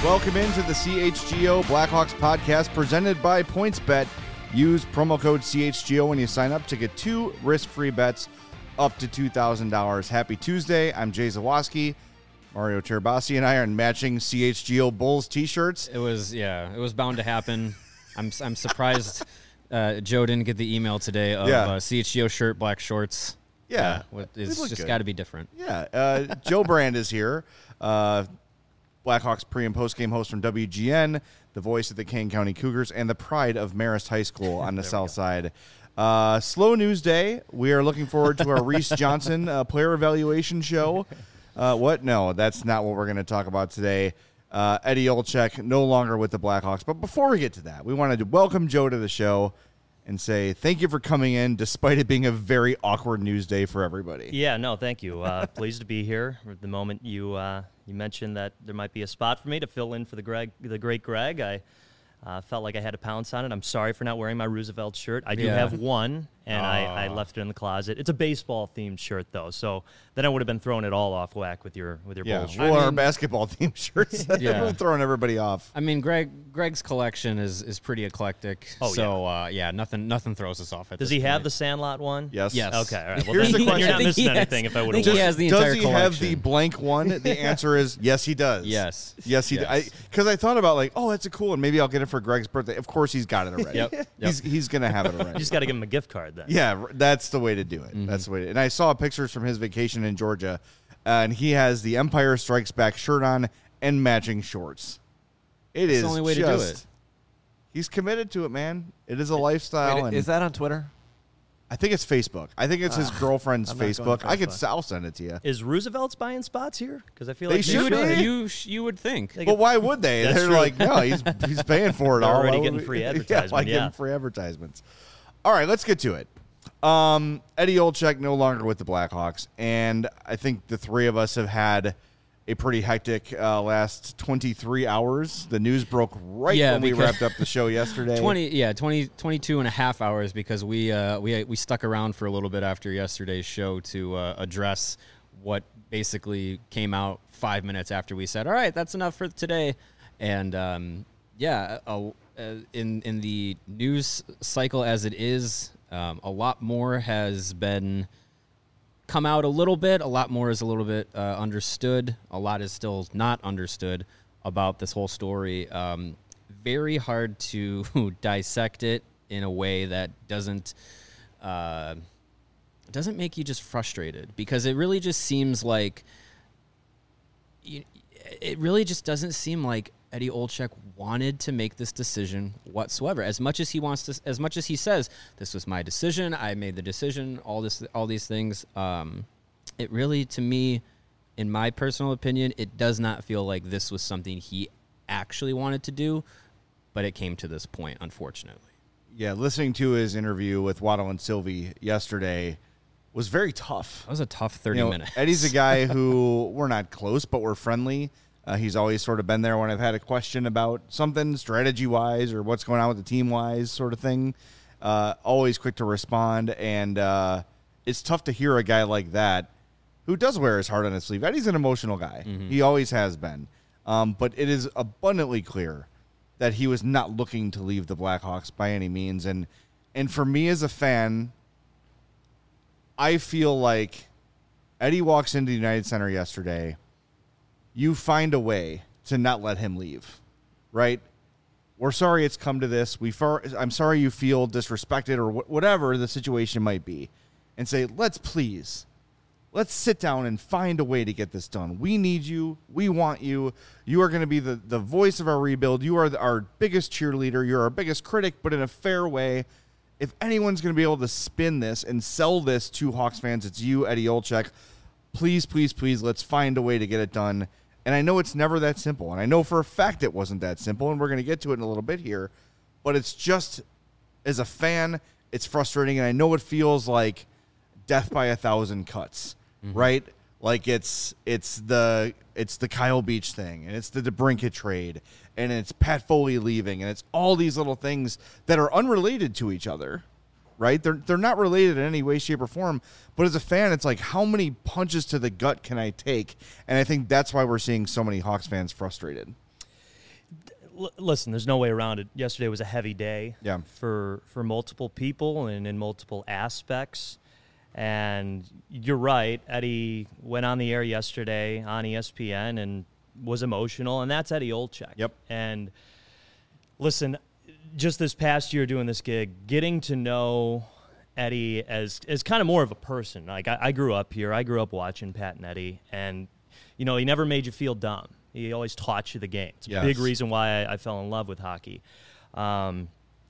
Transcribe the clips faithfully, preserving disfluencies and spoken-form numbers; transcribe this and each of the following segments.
Welcome into the C H G O Blackhawks podcast presented by PointsBet. Use promo code C H G O when you sign up to get two risk-free bets up to two thousand dollars. Happy Tuesday. I'm Jay Zawoski. Mario Terabasi and I are in matching C H G O Bulls t-shirts. It was, yeah, it was bound to happen. I'm I'm surprised uh, Joe didn't get the email today of yeah. uh, C H G O shirt, black shorts. Yeah. Uh, it's just got to be different. Yeah. Uh, Joe Brand is here. Uh, Blackhawks pre- and post-game host from W G N, the voice of the Kane County Cougars, and the pride of Marist High School on the south side. Uh, slow news day. We are looking forward to our Reese Johnson uh, player evaluation show. Uh, what? No, that's not what we're going to talk about today. Uh, Eddie Olczyk no longer with the Blackhawks. But before we get to that, we wanted to welcome Joe to the show and say thank you for coming in, despite it being a very awkward news day for everybody. Yeah, no, thank you. Uh, pleased to be here. The moment you uh, you mentioned that there might be a spot for me to fill in for the Greg, the great Greg, I uh, felt like I had to pounce on it. I'm sorry for not wearing my Roosevelt shirt. I do yeah. have one, and I, I left it in the closet. It's a baseball-themed shirt, though, so then I would have been throwing it all off whack with your with your Yeah, Bulls shirt. well, I mean, our basketball-themed shirts. Yeah. We're throwing everybody off. I mean, Greg Greg's collection is, is pretty eclectic. Oh, so, yeah. Uh, yeah, nothing nothing throws us off at Does this he have point. the Sandlot one? Yes. Yes. Okay, all right. Well, Here's then, the question. you're not I think missing he has- anything if I would I have think he has the entire Does he have the collection. blank one? The answer is yes, he does. Yes. Yes, he Yes. does. Because I, I thought about, like, oh, that's a cool one. Maybe I'll get it for Greg's birthday. Of course, he's got it already. Yep. Yep. He's, he's going to have it already. You just got to give him a gift card then. Yeah, r- that's the way to do it. Mm-hmm. That's the way. To, and I saw pictures from his vacation in Georgia, uh, and he has the Empire Strikes Back shirt on and matching shorts. It It's is the only way to do just- it. He's committed to it, man. It is a lifestyle. Wait, and is that on Twitter? I think it's Facebook. I think it's his girlfriend's I'm not going Facebook. to I could. Facebook. I'll send it to you. Is Roosevelt's buying spots here? Because I feel They like should should. be. You sh- you would think. They But get- why would they? That's They're true. like, no, he's he's paying for it They're all. already Why getting would free we- advertisement, Yeah, like yeah. getting free advertisements. All right, let's get to it. Um, Eddie Olczyk no longer with the Blackhawks, and I think the three of us have had a pretty hectic uh, last twenty-three hours. The news broke right Yeah, when we because- wrapped up the show yesterday. twenty yeah twenty, twenty-two and a half hours because we uh we we stuck around for a little bit after yesterday's show to uh, address what basically came out five minutes after we said, all right, that's enough for today. And um yeah uh, uh, in in the news cycle as it is, um, a lot more has been come out a little bit. A lot more is a little bit uh, understood. A lot is still not understood about this whole story. Um, very hard to dissect it in a way that doesn't uh, doesn't make you just frustrated, because it really just seems like you, it really just doesn't seem like Eddie Olczyk wanted to make this decision whatsoever. As much as he wants to, as much as he says, this was my decision, I made the decision, all this, all these things. Um, it really, to me, in my personal opinion, it does not feel like this was something he actually wanted to do, but it came to this point, unfortunately. Yeah, listening to his interview with Waddle and Sylvie yesterday was very tough. That was a tough thirty You know, minutes. Eddie's a guy who we're not close, but we're friendly. Uh, he's always sort of been there when I've had a question about something strategy-wise or what's going on with the team-wise sort of thing. Uh, always quick to respond, and uh, it's tough to hear a guy like that who does wear his heart on his sleeve. Eddie's an emotional guy. Mm-hmm. He always has been. Um, but it is abundantly clear that he was not looking to leave the Blackhawks by any means. And and for me as a fan, I feel like Eddie walks into the United Center yesterday, you find a way to not let him leave, right? We're sorry it's come to this. We far, I'm sorry you feel disrespected or wh- whatever the situation might be, and say, let's please, let's sit down and find a way to get this done. We need you. We want you. You are going to be the, the voice of our rebuild. You are the, our biggest cheerleader. You're our biggest critic, but in a fair way. If anyone's going to be able to spin this and sell this to Hawks fans, it's you, Eddie Olczyk. Please, please, please, let's find a way to get it done. And I know it's never that simple. And I know for a fact it wasn't that simple, and we're going to get to it in a little bit here. But it's just, as a fan, it's frustrating. And I know it feels like death by a thousand cuts, mm-hmm. right? Like it's it's the it's the Kyle Beach thing, and it's the DeBrincat trade, and it's Pat Foley leaving, and it's all these little things that are unrelated to each other, right? They're they're not related in any way, shape, or form. But as a fan, it's like, how many punches to the gut can I take? And I think that's why we're seeing so many Hawks fans frustrated. l- listen, there's no way around it. Yesterday was a heavy day Yeah. for for multiple people and in multiple aspects. And you're right. Eddie went on the air yesterday on E S P N and was emotional, and that's Eddie Olczyk. Yep. And listen, just this past year doing this gig, getting to know Eddie as as kind of more of a person. Like I, I grew up here. I grew up watching Pat and Eddie, and you know he never made you feel dumb. He always taught you the game. It's a Yes. big reason why I, I fell in love with hockey. Um,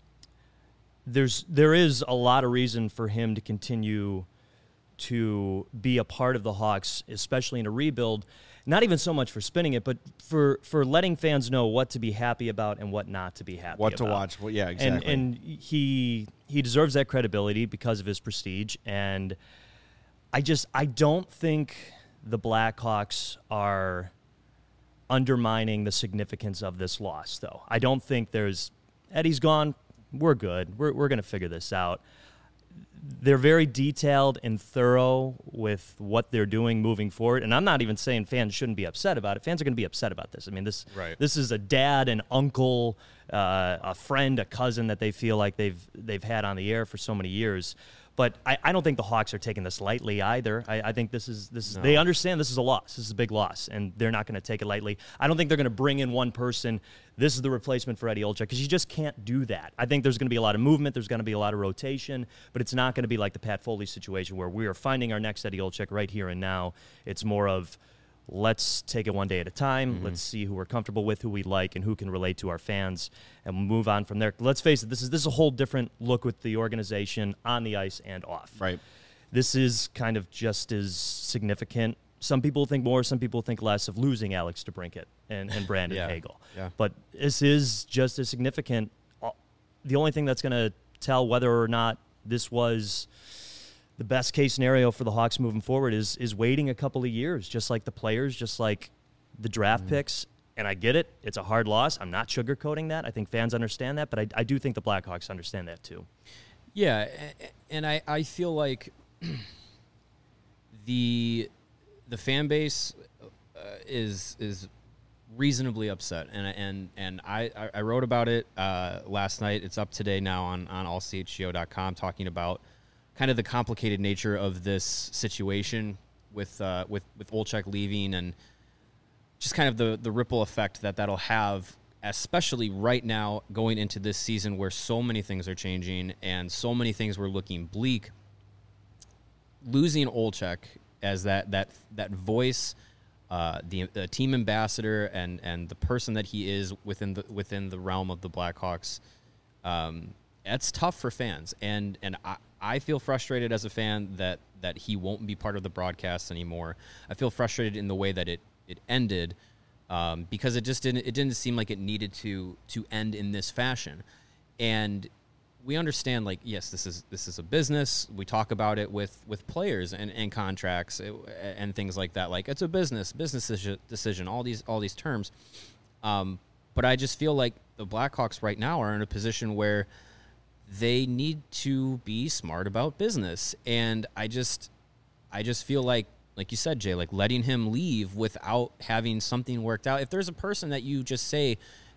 there's there is a lot of reason for him to continue to be a part of the Hawks, especially in a rebuild. Not even so much for spinning it, but for, for letting fans know what to be happy about and what not to be happy What about. to watch. Well, yeah, exactly. And, and he he deserves that credibility because of his prestige. And I just I don't think the Blackhawks are undermining the significance of this loss, though. I don't think there's Eddie's gone. We're good. We're we're gonna figure this out. They're very detailed and thorough with what they're doing moving forward. And I'm not even saying fans shouldn't be upset about it. Fans are going to be upset about this. I mean, this Right. this is a dad, an uncle, uh, a friend, a cousin that they feel like they've they've had on the air for so many years. But I, I don't think the Hawks are taking this lightly either. I, I think this is this is No. they understand this is a loss. This is a big loss, and they're not going to take it lightly. I don't think they're going to bring in one person. This is the replacement for Eddie Olczyk, because you just can't do that. I think there's going to be a lot of movement. There's going to be a lot of rotation, but it's not going to be like the Pat Foley situation where we are finding our next Eddie Olczyk right here and now. It's more of let's take it one day at a time. Mm-hmm. Let's see who we're comfortable with, who we like, and who can relate to our fans, and we'll move on from there. Let's face it, this is this is a whole different look with the organization on the ice and off. Right. This is kind of just as significant. Some people think more, some people think less of losing Alex DeBrincat and, and Brandon Yeah. Hagel. Yeah. But this is just as significant. Uh, The only thing that's going to tell whether or not this was the best case scenario for the Hawks moving forward is is waiting a couple of years, just like the players, just like the draft Mm-hmm. picks. And I get it. It's a hard loss. I'm not sugarcoating that. I think fans understand that, but I, I do think the Blackhawks understand that too. Yeah, a- and I, I feel like the the fan base uh, is is reasonably upset, and and and I, I wrote about it uh, last night. It's up today now on on all c h g o dot com, talking about kind of the complicated nature of this situation with uh, with with Olczyk leaving, and just kind of the the ripple effect that that'll have, especially right now going into this season where so many things are changing and so many things were looking bleak. Losing Olczyk as that that that voice, uh, the, the team ambassador, and and the person that he is within the within the realm of the Blackhawks, um, that's tough for fans. And and I, I feel frustrated as a fan that that he won't be part of the broadcast anymore. I feel frustrated in the way that it it ended, um, because it just didn't it didn't seem like it needed to to end in this fashion. And we understand, like, yes, this is this is a business. We talk about it with, with players and, and contracts and things like that. Like, it's a business, business decision, all these all these terms. Um, but I just feel like the Blackhawks right now are in a position where they need to be smart about business. And I just I just feel like, like you said, Jay, like letting him leave without having something worked out. If there's a person that you just say,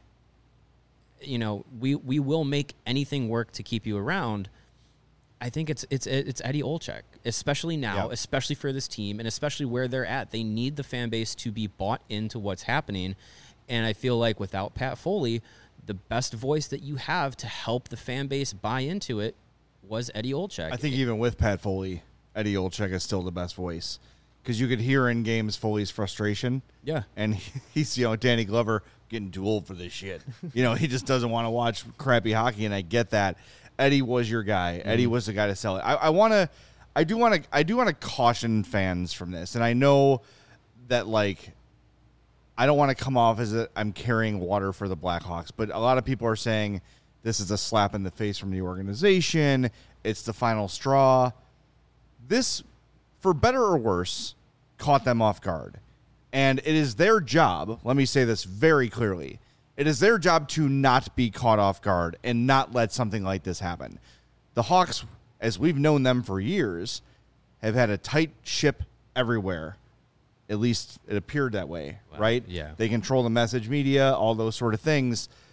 you know, we, we will make anything work to keep you around, I think it's it's it's Eddie Olczyk, especially now, Yeah. especially for this team, and especially where they're at. They need the fan base to be bought into what's happening. And I feel like without Pat Foley, the best voice that you have to help the fan base buy into it was Eddie Olczyk. I think even with Pat Foley, Eddie Olczyk is still the best voice, because you could hear in games Foley's frustration. Yeah. And he, he's, you know, Danny Glover getting too old for this shit. You know, he just doesn't want to watch crappy hockey, and I get that. Eddie was your guy. Mm-hmm. Eddie was the guy to sell it. I, I want to, I do want to, I do want to caution fans from this, and I know that, like, I don't want to come off as a, I'm carrying water for the Blackhawks, but a lot of people are saying this is a slap in the face from the organization. It's the final straw. This, for better or worse, caught them off guard. And it is their job, let me say this very clearly, it is their job to not be caught off guard and not let something like this happen. The Hawks, as we've known them for years, have had a tight ship everywhere. At least it appeared that way, Wow. right? Yeah. They control the message media, all those sort of things.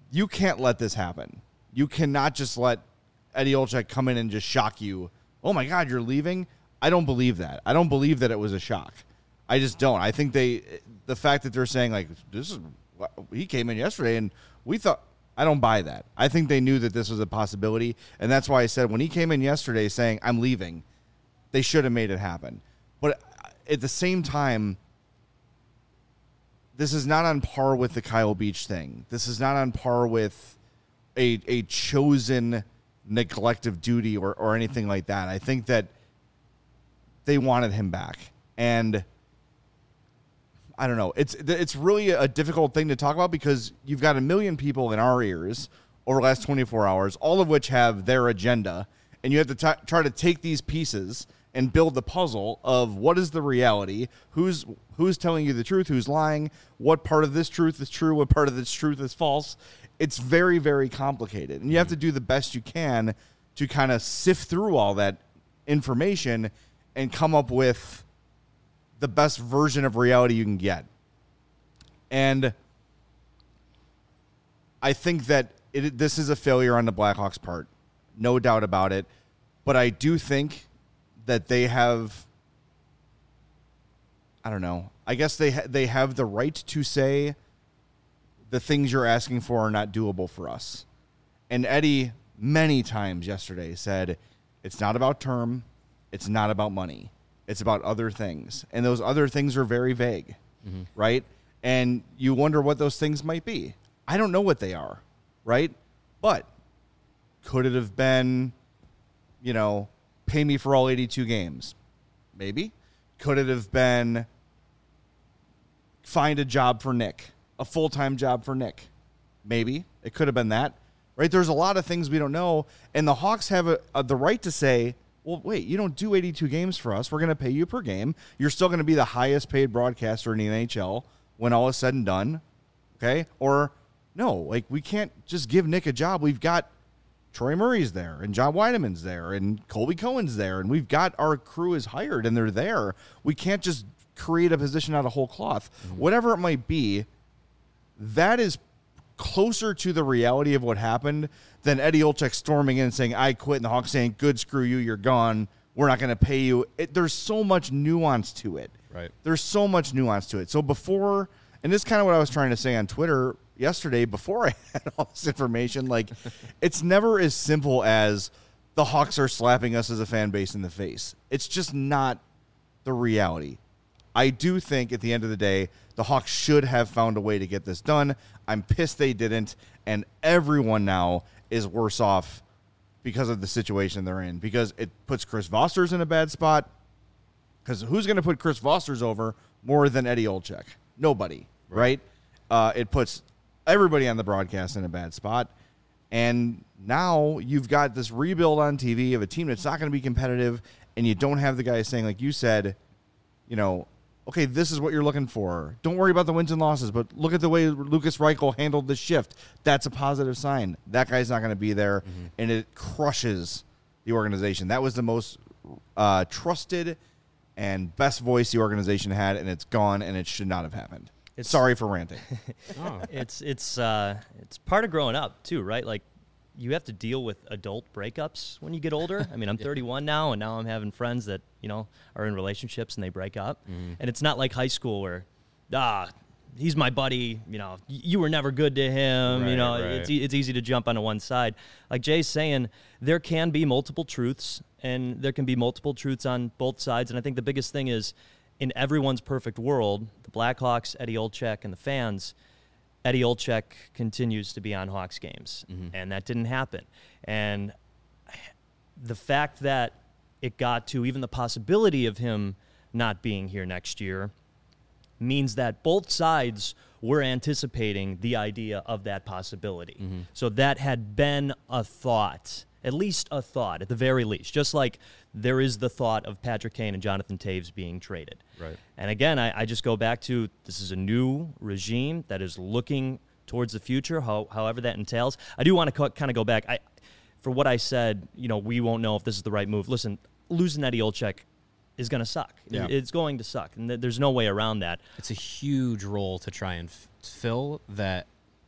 you can't let this happen. You cannot just let Eddie Olczyk come in and just shock you. Oh, my God, you're leaving? I don't believe that. I don't believe that it was a shock. I just don't. I think they – the fact that they're saying, like, this is – he came in yesterday and we thought – I don't buy that. I think they knew that this was a possibility, and that's why I said when he came in yesterday saying, I'm leaving, they should have made it happen. But at the same time, this is not on par with the Kyle Beach thing. This is not on par with a a chosen neglect of duty or, or anything like that. I think that they wanted him back. And I don't know. It's it's really a difficult thing to talk about because you've got a million people in our ears over the last twenty-four hours, all of which have their agenda, and you have to t- try to take these pieces and build the puzzle of what is the reality, who's who's telling you the truth, who's lying, what part of this truth is true, what part of this truth is false. It's very, very complicated, and you have to do the best you can to kind of sift through all that information and come up with the best version of reality you can get. And I think that it, this is a failure on the Blackhawks' part, no doubt about it. But I do think that they have, I don't know, I guess they ha- they have the right to say the things you're asking for are not doable for us. And Eddie many times yesterday said, it's not about term, it's not about money. It's about other things. And those other things are very vague, mm-hmm. right? And you wonder what those things might be. I don't know what they are, right? But could it have been, you know, pay me for all eighty-two games? Maybe. Could it have been find a job for Nick, a full-time job for Nick? Maybe. It could have been that, right? There's a lot of things we don't know. And the Hawks have a, a, the right to say, well, wait, you don't do eighty-two games for us. We're going to pay you per game. You're still going to be the highest paid broadcaster in the N H L when all is said and done, okay? Or, no, like, we can't just give Nick a job. We've got Troy Murray's there, and John Weideman's there, and Colby Cohen's there, and we've got our crew is hired, and they're there. We can't just create a position out of whole cloth. Mm-hmm. Whatever it might be, that is closer to the reality of what happened than Eddie Olczyk storming in and saying, I quit, and the Hawks saying, good, screw you, you're gone. We're not going to pay you. It, there's so much nuance to it. Right. There's so much nuance to it. So before, and this is kind of what I was trying to say on Twitter yesterday before I had all this information, like, it's never as simple as the Hawks are slapping us as a fan base in the face. It's just not the reality. I do think at the end of the day, the Hawks should have found a way to get this done. I'm pissed they didn't, and everyone now is worse off because of the situation they're in, because it puts Chris Vosters in a bad spot, because who's going to put Chris Vosters over more than Eddie Olczyk? Nobody, right? right? Uh, it puts everybody on the broadcast in a bad spot, and now you've got this rebuild on T V of a team that's not going to be competitive, and you don't have the guys saying, like you said, you know, okay, this is what you're looking for. Don't worry about the wins and losses, but look at the way Lucas Reichel handled the shift. That's a positive sign. That guy's not going to be there, mm-hmm. and it crushes the organization. That was the most uh, trusted and best voice the organization had, and it's gone, and it should not have happened. It's, Sorry for ranting. oh. It's it's uh, it's part of growing up too, right? Like, you have to deal with adult breakups when you get older. I mean, I'm thirty-one now, and now I'm having friends that, you know, are in relationships and they break up. Mm. And it's not like high school where, ah, he's my buddy, you know, you were never good to him, right, you know, right. it's it's easy to jump onto one side. Like Jay's saying, there can be multiple truths, and there can be multiple truths on both sides. And I think the biggest thing is, in everyone's perfect world, the Blackhawks, Eddie Olczyk, and the fans, Eddie Olczyk continues to be on Hawks games, mm-hmm. and that didn't happen. And the fact that it got to even the possibility of him not being here next year means that both sides were anticipating the idea of that possibility. Mm-hmm. So that had been a thought, at least a thought, at the very least, just like there is the thought of Patrick Kane and Jonathan Toews being traded. Right. And again, I, I just go back to, this is a new regime that is looking towards the future, how, however that entails. I do want to co- kind of go back. I, for what I said, you know, we won't know if this is the right move. Listen, losing Eddie Olczyk is going to suck. Yeah. It, it's going to suck, and th- there's no way around that. It's a huge role to try and f- fill that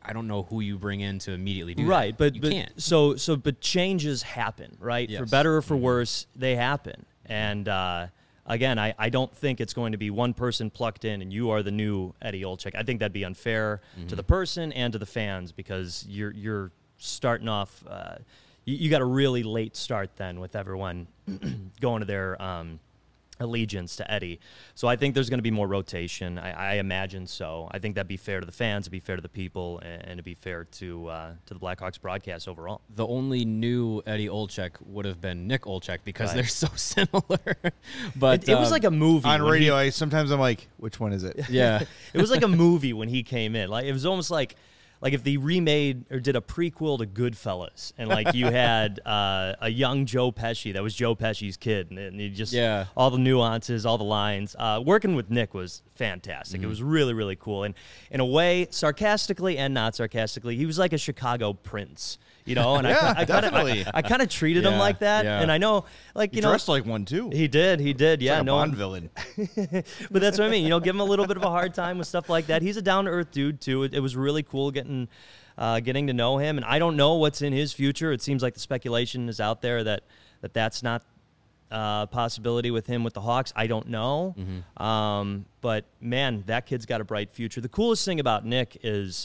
I don't know who you bring in to immediately do right, that. but you but can't. so so but changes happen, right? Yes. For better or for Mm-hmm. worse, they happen. And uh, again, I, I don't think it's going to be one person plucked in and you are the new Eddie Olczyk. I think that'd be unfair Mm-hmm. to the person and to the fans because you're you're starting off. Uh, you, you got a really late start then with everyone going to their um, allegiance to Eddie. So I think there's going to be more rotation. I, I imagine so. I think that'd be fair to the fans, it'd be fair to the people, and, and it'd be fair to uh, to the Blackhawks broadcast overall. The only new Eddie Olczyk would have been Nick Olczyk because Right. they're so similar. But It, it was um, like a movie On when radio, he- I sometimes I'm like, which one is it? yeah. it was like a movie when he came in. Like it was almost like like if they remade or did a prequel to Goodfellas, and like you had uh, a young Joe Pesci that was Joe Pesci's kid, and, and you just Yeah. all the nuances, all the lines. Uh, working with Nick was fantastic. Mm-hmm. It was really really cool, and in a way, sarcastically and not sarcastically, he was like a Chicago prince. You know, and Yeah, I, I kind of definitely. I, I kind of treated him Yeah, like that, yeah. and I know, like He you know, dressed like one too. he did, he did, He's yeah, like a no Bond one, villain. but that's what I mean. You know, give him a little bit of a hard time with stuff like that. He's a down to earth dude too. It, it was really cool getting uh, getting to know him, and I don't know what's in his future. It seems like the speculation is out there that that that's not a uh, possibility with him with the Hawks. I don't know, Mm-hmm. um, but man, that kid's got a bright future. The coolest thing about Nick is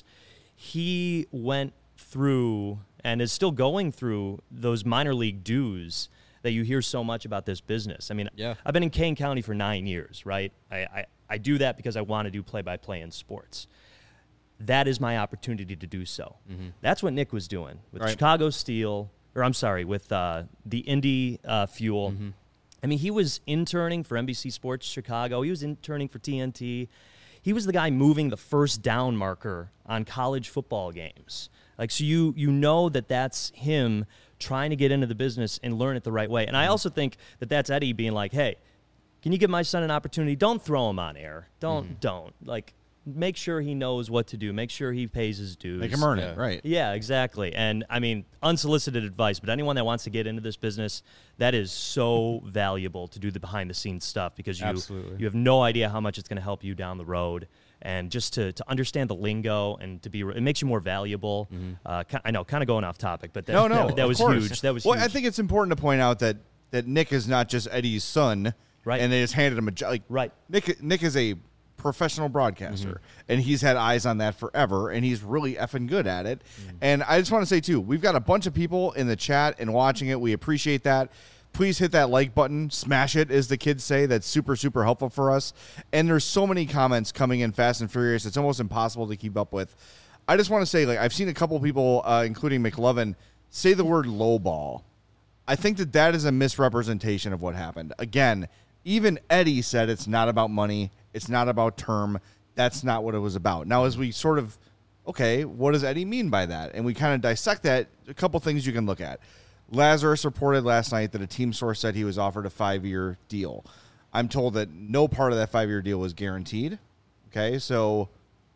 he went through and is still going through those minor league dues that you hear so much about this business. I mean, Yeah. I've been in Kane County for nine years, right? I, I, I do that because I want to do play-by-play in sports. That is my opportunity to do so. Mm-hmm. That's what Nick was doing with Right. Chicago Steel, or I'm sorry, with uh, the Indy uh, Fuel. Mm-hmm. I mean, he was interning for N B C Sports Chicago. He was interning for T N T. He was the guy moving the first down marker on college football games. Like, so you you know that that's him trying to get into the business and learn it the right way. And I also think that that's Eddie being like, hey, can you give my son an opportunity? Don't throw him on air. Don't, Mm-hmm. don't. Like, make sure he knows what to do. Make sure he pays his dues. Make him earn Yeah. it, right? Yeah, exactly. And I mean, unsolicited advice, but anyone that wants to get into this business, that is so valuable to do the behind the scenes stuff because you Absolutely. you have no idea how much it's going to help you down the road. And just to, to understand the lingo and to be, it makes you more valuable. Uh, ki- I know, kind of going off topic, but that, No, no, that, that of was course. huge. That was well, huge. I think it's important to point out that that Nick is not just Eddie's son, Right. And they just handed him a job. Like, Right. Nick, Nick is a professional broadcaster, and he's had eyes on that forever, and he's really effing good at it. And I just want to say too, we've got a bunch of people in the chat and watching it. We appreciate that. Please hit that like button, smash it, as the kids say. That's super, super helpful for us. And there's so many comments coming in fast and furious. It's almost impossible to keep up with. I just want to say, like, I've seen a couple people, uh, including McLovin, say the word lowball. I think that that is a misrepresentation of what happened. Again, even Eddie said it's not about money. It's not about term. That's not what it was about. Now, as we sort of, okay, what does Eddie mean by that? And we kind of dissect that, a couple things you can look at. Lazarus reported last night that a team source said he was offered a five-year deal. I'm told that no part of that five-year deal was guaranteed. Okay, so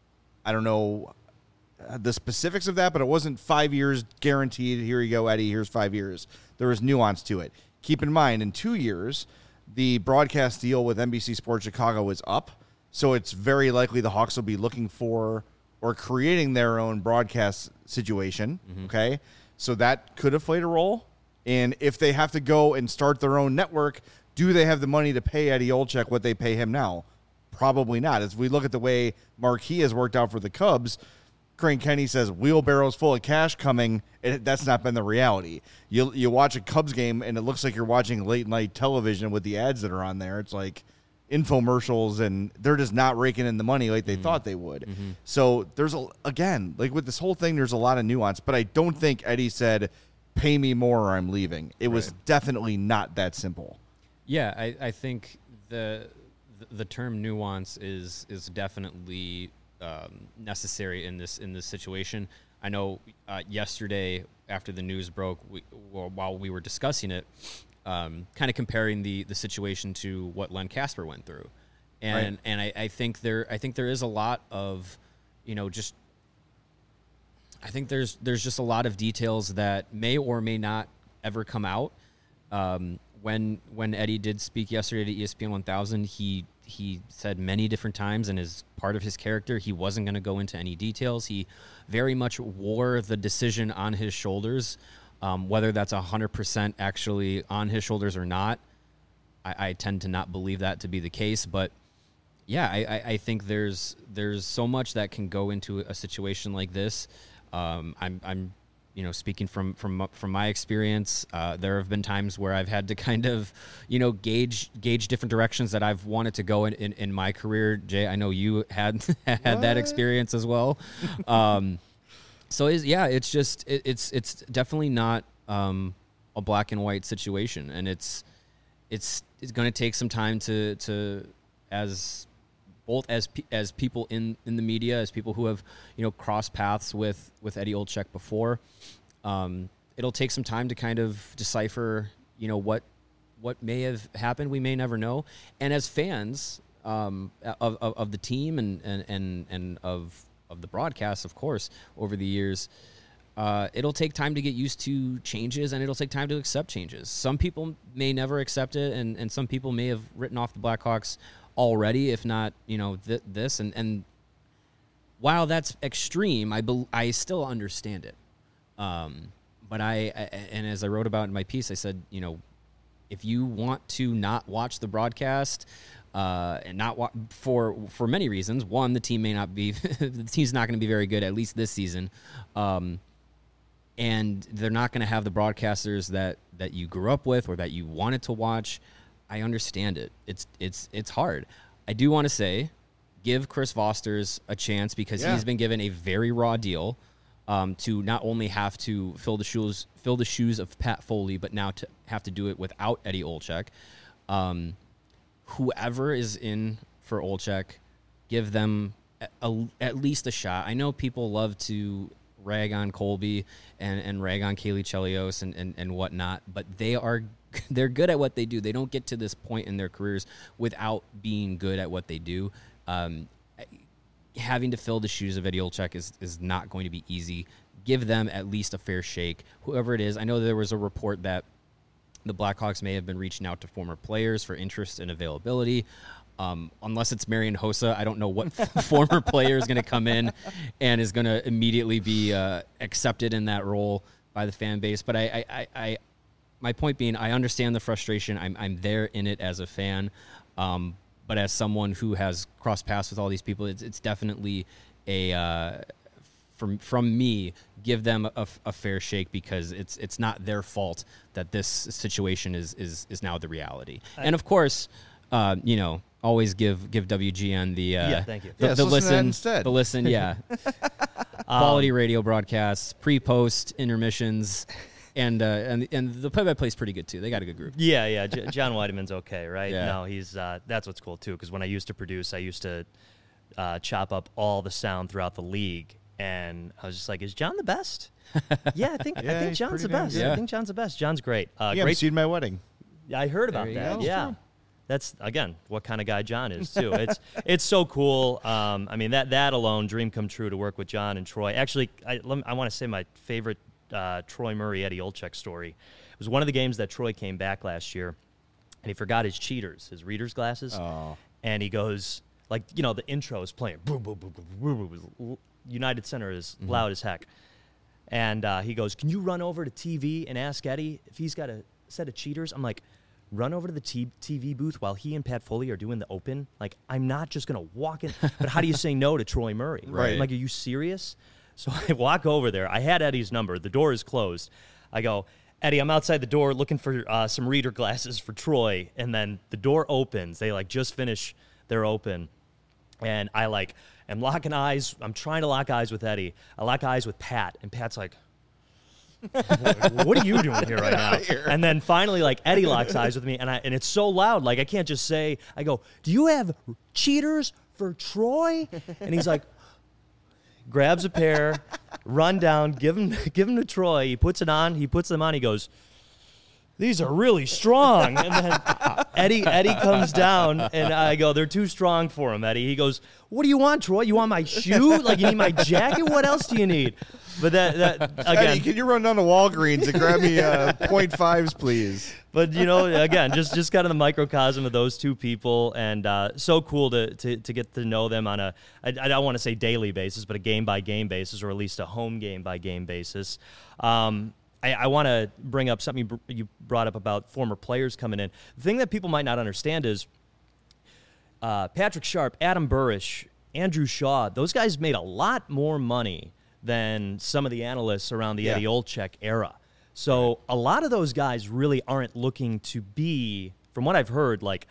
I don't know the specifics of that, but it wasn't five years guaranteed. Here you go, Eddie. Here's five years. There was nuance to it. Keep in mind, in two years, the broadcast deal with N B C Sports Chicago is up, so it's very likely the Hawks will be looking for or creating their own broadcast situation. Mm-hmm. Okay, so that could have played a role. And if they have to go and start their own network, do they have the money to pay Eddie Olczyk what they pay him now? Probably not. As we look at the way Marquee has worked out for the Cubs, Crane Kenny says wheelbarrows full of cash coming. It, that's not been the reality. You you watch a Cubs game and it looks like you're watching late night television with the ads that are on there. It's like infomercials, and they're just not raking in the money like they mm-hmm. thought they would. Mm-hmm. So there's a again like with this whole thing, there's a lot of nuance. But I don't think Eddie said, "Pay me more or I'm leaving." It right. was definitely not that simple. Yeah, I, I think the the term nuance is is definitely um, necessary in this in this situation. I know uh, yesterday after the news broke, we, well, while we were discussing it, um, kind of comparing the the situation to what Len Kasper went through, and right. and I, I think there I think there is a lot of, you know, just I think there's there's just a lot of details that may or may not ever come out. Um, when when Eddie did speak yesterday to E S P N one thousand, he he said many different times, and as part of his character, he wasn't going to go into any details. He very much wore the decision on his shoulders, um, whether that's one hundred percent actually on his shoulders or not. I, I tend to not believe that to be the case, but yeah, I, I, I think there's there's so much that can go into a situation like this. Um, I'm I'm you know speaking from from from my experience. Uh, there have been times where I've had to kind of you know gauge gauge different directions that I've wanted to go in, in, in my career. Jay, I know you had had what? that experience as well. Um, so it's, yeah, it's just it, it's it's definitely not um, a black and white situation, and it's it's it's going to take some time to to as both as pe- as people in, in the media, as people who have you know crossed paths with, with Eddie Olczyk before, um, it'll take some time to kind of decipher you know what what may have happened. We may never know. And as fans um, of, of of the team and and and, and of of the broadcast, of course, over the years, uh, it'll take time to get used to changes, and it'll take time to accept changes. Some people may never accept it, and, and some people may have written off the Blackhawks already, if not, you know, th- this. And, and while that's extreme, I be- I still understand it. Um, but I, I, and as I wrote about in my piece, I said, you know, if you want to not watch the broadcast, uh, and not wa- for for many reasons. One, the team may not be, the team's not going to be very good, at least this season. Um, and they're not going to have the broadcasters that, that you grew up with or that you wanted to watch. I understand it. It's it's it's hard. I do want to say, give Chris Vosters a chance, because Yeah. he's been given a very raw deal um, to not only have to fill the shoes fill the shoes of Pat Foley, but now to have to do it without Eddie Olczyk. Um, whoever is in for Olczyk, give them a, a, at least a shot. I know people love to rag on Colby and, and rag on Kaylee Chelios and, and, and whatnot, but they are they're good at what they do. They don't get to this point in their careers without being good at what they do. Um, having to fill the shoes of Eddie Olczyk is, is not going to be easy. Give them at least a fair shake, whoever it is. I know there was a report that the Blackhawks may have been reaching out to former players for interest and availability. Um, unless it's Marian Hossa, I don't know what former player is going to come in and is going to immediately be uh, accepted in that role by the fan base. But I, I, I, I my point being, I understand the frustration. I'm I'm there in it as a fan, um, but as someone who has crossed paths with all these people, it's it's definitely a uh, from from me. Give them a, a fair shake, because it's it's not their fault that this situation is is is now the reality. I, and of course, uh, you know, always give give W G N the uh, yeah, thank you. the, Yeah, the listen to that listen instead. the listen, yeah. Quality radio broadcasts, pre-post intermissions. And uh, and and the play-by-play is pretty good too. They got a good group. Yeah, yeah. J- John Weideman's okay, right? Yeah. No, he's uh, that's what's cool too. Because when I used to produce, I used to uh, chop up all the sound throughout the league, and I was just like, "Is John the best?" yeah, I think I Yeah, think he's John's the pretty damn best. good. Yeah. I think John's the best. John's great. Uh, You great. seen my wedding. Yeah, I heard about you that. go. Yeah. That's, again, what kind of guy John is, too. It's it's so cool. Um, I mean, that that alone, dream come true to work with John and Troy. Actually, I, let me- I want to say my favorite uh, Troy Murray, Eddie Olczyk story. It was one of the games that Troy came back last year, and he forgot his cheaters, his reader's glasses. Oh. And he goes, like, you know, the intro is playing. Boom, boom, boom, boom, boom, boom, boom. United Center is Mm-hmm. loud as heck. And uh, he goes, "Can you run over to T V and ask Eddie if he's got a set of cheaters?" I'm like, run over to the t- TV booth while he and Pat Foley are doing the open? Like, I'm not just going to walk in. But how do you say no to Troy Murray? Right. I'm like, are you serious? So I walk over there. I had Eddie's number. The door is closed. I go, "Eddie, I'm outside the door looking for uh, some reader glasses for Troy." And then the door opens. They, like, just finish their open. And I, like, am locking eyes. I'm trying to lock eyes with Eddie. I lock eyes with Pat. And Pat's like, "What are you doing here right now?" And then finally, like, Eddie locks eyes with me, and I and it's so loud, like, I can't just say. I go, "Do you have cheaters for Troy?" And he's like, grabs a pair, run down, give him give him to Troy. He puts it on. He puts them on. He goes, these are really strong. And then Eddie Eddie comes down, and I go, they're too strong for him, Eddie. He goes, what do you want, Troy? You want my shoe? Like, you need my jacket? What else do you need? But that, that again. Eddie, can you run down to Walgreens and grab me uh, point fives, please? But, you know, again, just just kind of the microcosm of those two people, and uh, so cool to, to to get to know them on a, I, I don't want to say daily basis, but a game-by-game basis, or at least a home game-by-game basis. Um, I, I want to bring up something you, br- you brought up about former players coming in. The thing that people might not understand is uh, Patrick Sharp, Adam Burrish, Andrew Shaw, those guys made a lot more money than some of the analysts around the Yeah. Eddie Olczyk era. So a lot of those guys really aren't looking to be, from what I've heard, like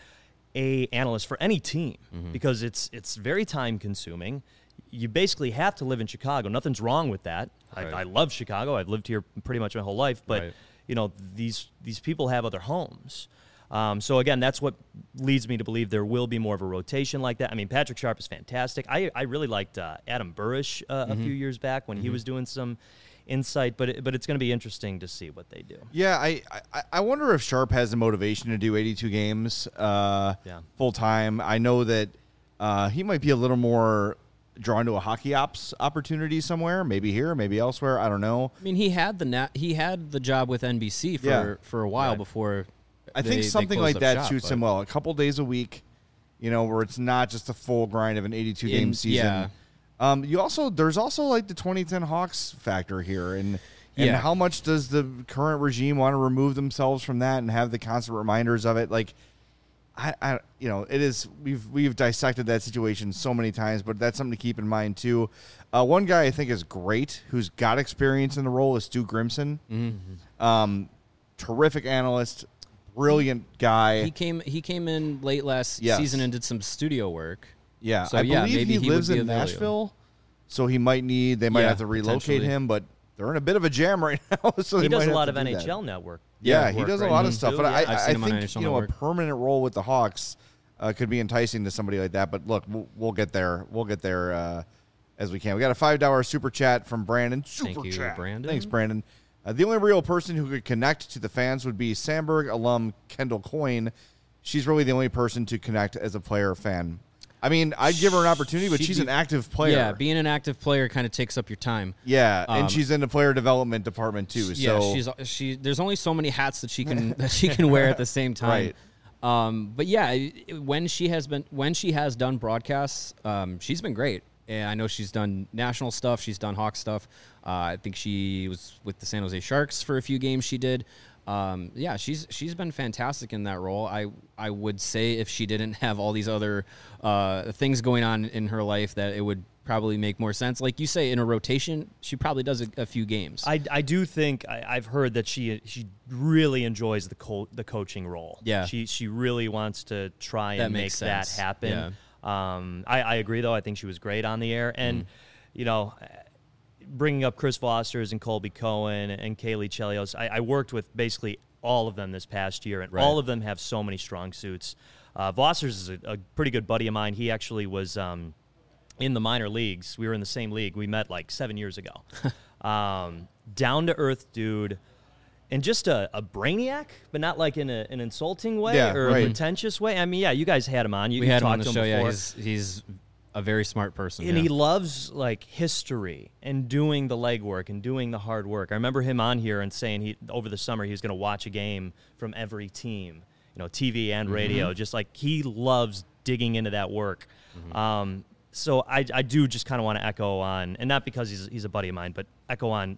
a analyst for any team Mm-hmm. because it's it's very time consuming. You basically have to live in Chicago. Nothing's wrong with that. Right. I, I love Chicago. I've lived here pretty much my whole life. But Right. you know, these these people have other homes. Um, so again, that's what leads me to believe there will be more of a rotation like that. I mean, Patrick Sharp is fantastic. I I really liked uh, Adam Burrish uh, Mm-hmm. a few years back when he was doing some insight. But it, but it's going to be interesting to see what they do. Yeah, I, I I wonder if Sharp has the motivation to do eighty-two games uh, Yeah. full time. I know that uh, he might be a little more drawn to a hockey ops opportunity somewhere, maybe here, maybe elsewhere. I don't know. I mean, he had the nat- he had the job with N B C for Yeah. for a while Right. before. I they- think they something closed like up that shop, suits but- him well. A couple days a week, you know, where it's not just the full grind of an eighty-two game In- season. yeah. Um, you also there's also like the twenty ten Hawks factor here, and and Yeah. how much does the current regime want to remove themselves from that and have the constant reminders of it? Like, I, I you know, it is we've we've dissected that situation so many times, but that's something to keep in mind too. Uh, one guy I think is great, who's got experience in the role, is Stu Grimson. Mm-hmm. Um, terrific analyst, brilliant guy. He came he came in late last Yes. season and did some studio work. Yeah, So, I yeah, believe maybe he, he would lives be in available. Nashville, so he might need. They might Yeah, have to relocate potentially. him, but they're in a bit of a jam right now. So He they does might a have lot to of do N that. H L Network. Yeah, uh, he work does a right lot now, of stuff, too, but yeah. I, I've I seen him on think N H L you know a Network. permanent role with the Hawks uh, could be enticing to somebody like that. But look, we'll, we'll get there. We'll get there uh, as we can. We got a five dollar super chat from Brandon. Super Thank you, chat. Brandon. Thanks, Brandon. Uh, the only real person who could connect to the fans would be Sandberg alum Kendall Coyne. She's really the only person to connect as a player fan. I mean, I'd give her an opportunity, but She'd she's be- an active player. Yeah, being an active player kind of takes up your time. Yeah, Um, and she's in the player development department too. Yeah, so she's she. There's only so many hats that she can that she can wear at the same time. Right. Um, but yeah, it- when she has been when she has done broadcasts, um, she's been great. And I know she's done national stuff. She's done Hawk stuff. Uh, I think she was with the San Jose Sharks for a few games. She did. Um, yeah, she's she's been fantastic in that role. I I would say if she didn't have all these other uh, things going on in her life, that it would probably make more sense. Like you say, in a rotation, she probably does a, a few games. I, I do think I, I've heard that she she really enjoys the co- the coaching role. Yeah. she she really wants to try That and make makes that sense. happen. Um, I, I agree though. I think she was great on the air, and you know, bringing up Chris Foster's and Colby Cohen and Kaylee Chelios, I, I worked with basically all of them this past year, and Right. all of them have so many strong suits. Uh, Foster's is a, a pretty good buddy of mine. He actually was. Um, in the minor leagues. We were in the same league. We met like seven years ago. um, down to earth dude, and just a, a brainiac, but not like in a, an insulting way Yeah, or right. a pretentious way. I mean, yeah, you guys had him on. You we you had him talked on the to him show. Yeah, before. he's he's a very smart person. And yeah. he loves like history and doing the legwork and doing the hard work. I remember him on here and saying he over the summer he was going to watch a game from every team, you know, T V and radio. Mm-hmm. Just like he loves digging into that work. Um, so I, I do just kind of want to echo on, and not because he's he's a buddy of mine, but echo on.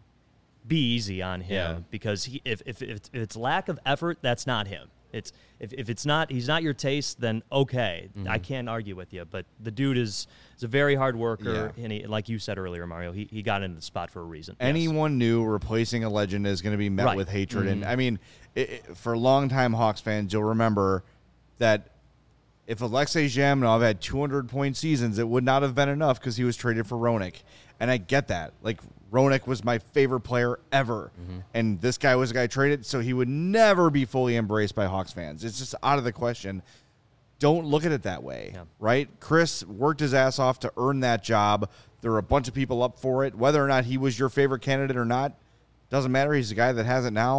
Be easy on him Yeah. because he, if, if, if it's- if it's lack of effort, that's not him. It's if, if it's not he's not your taste, then okay, Mm-hmm. I can't argue with you. But the dude is is a very hard worker, Yeah. and he, like you said earlier, Mario, he, he got into the spot for a reason. anyone new replacing a legend is going to be met Right. with hatred. And I mean, it, it- for longtime Hawks fans, you'll remember that if Alexei Zhamnov had two hundred point seasons, it would not have been enough because he was traded for Roenick. And I get that. Like, Roenick was my favorite player ever. And this guy was a guy traded, so he would never be fully embraced by Hawks fans. It's just out of the question. Don't look at it that way, Yeah. right? Chris worked his ass off to earn that job. There were a bunch of people up for it. Whether or not he was your favorite candidate or not, doesn't matter. He's the guy that has it now.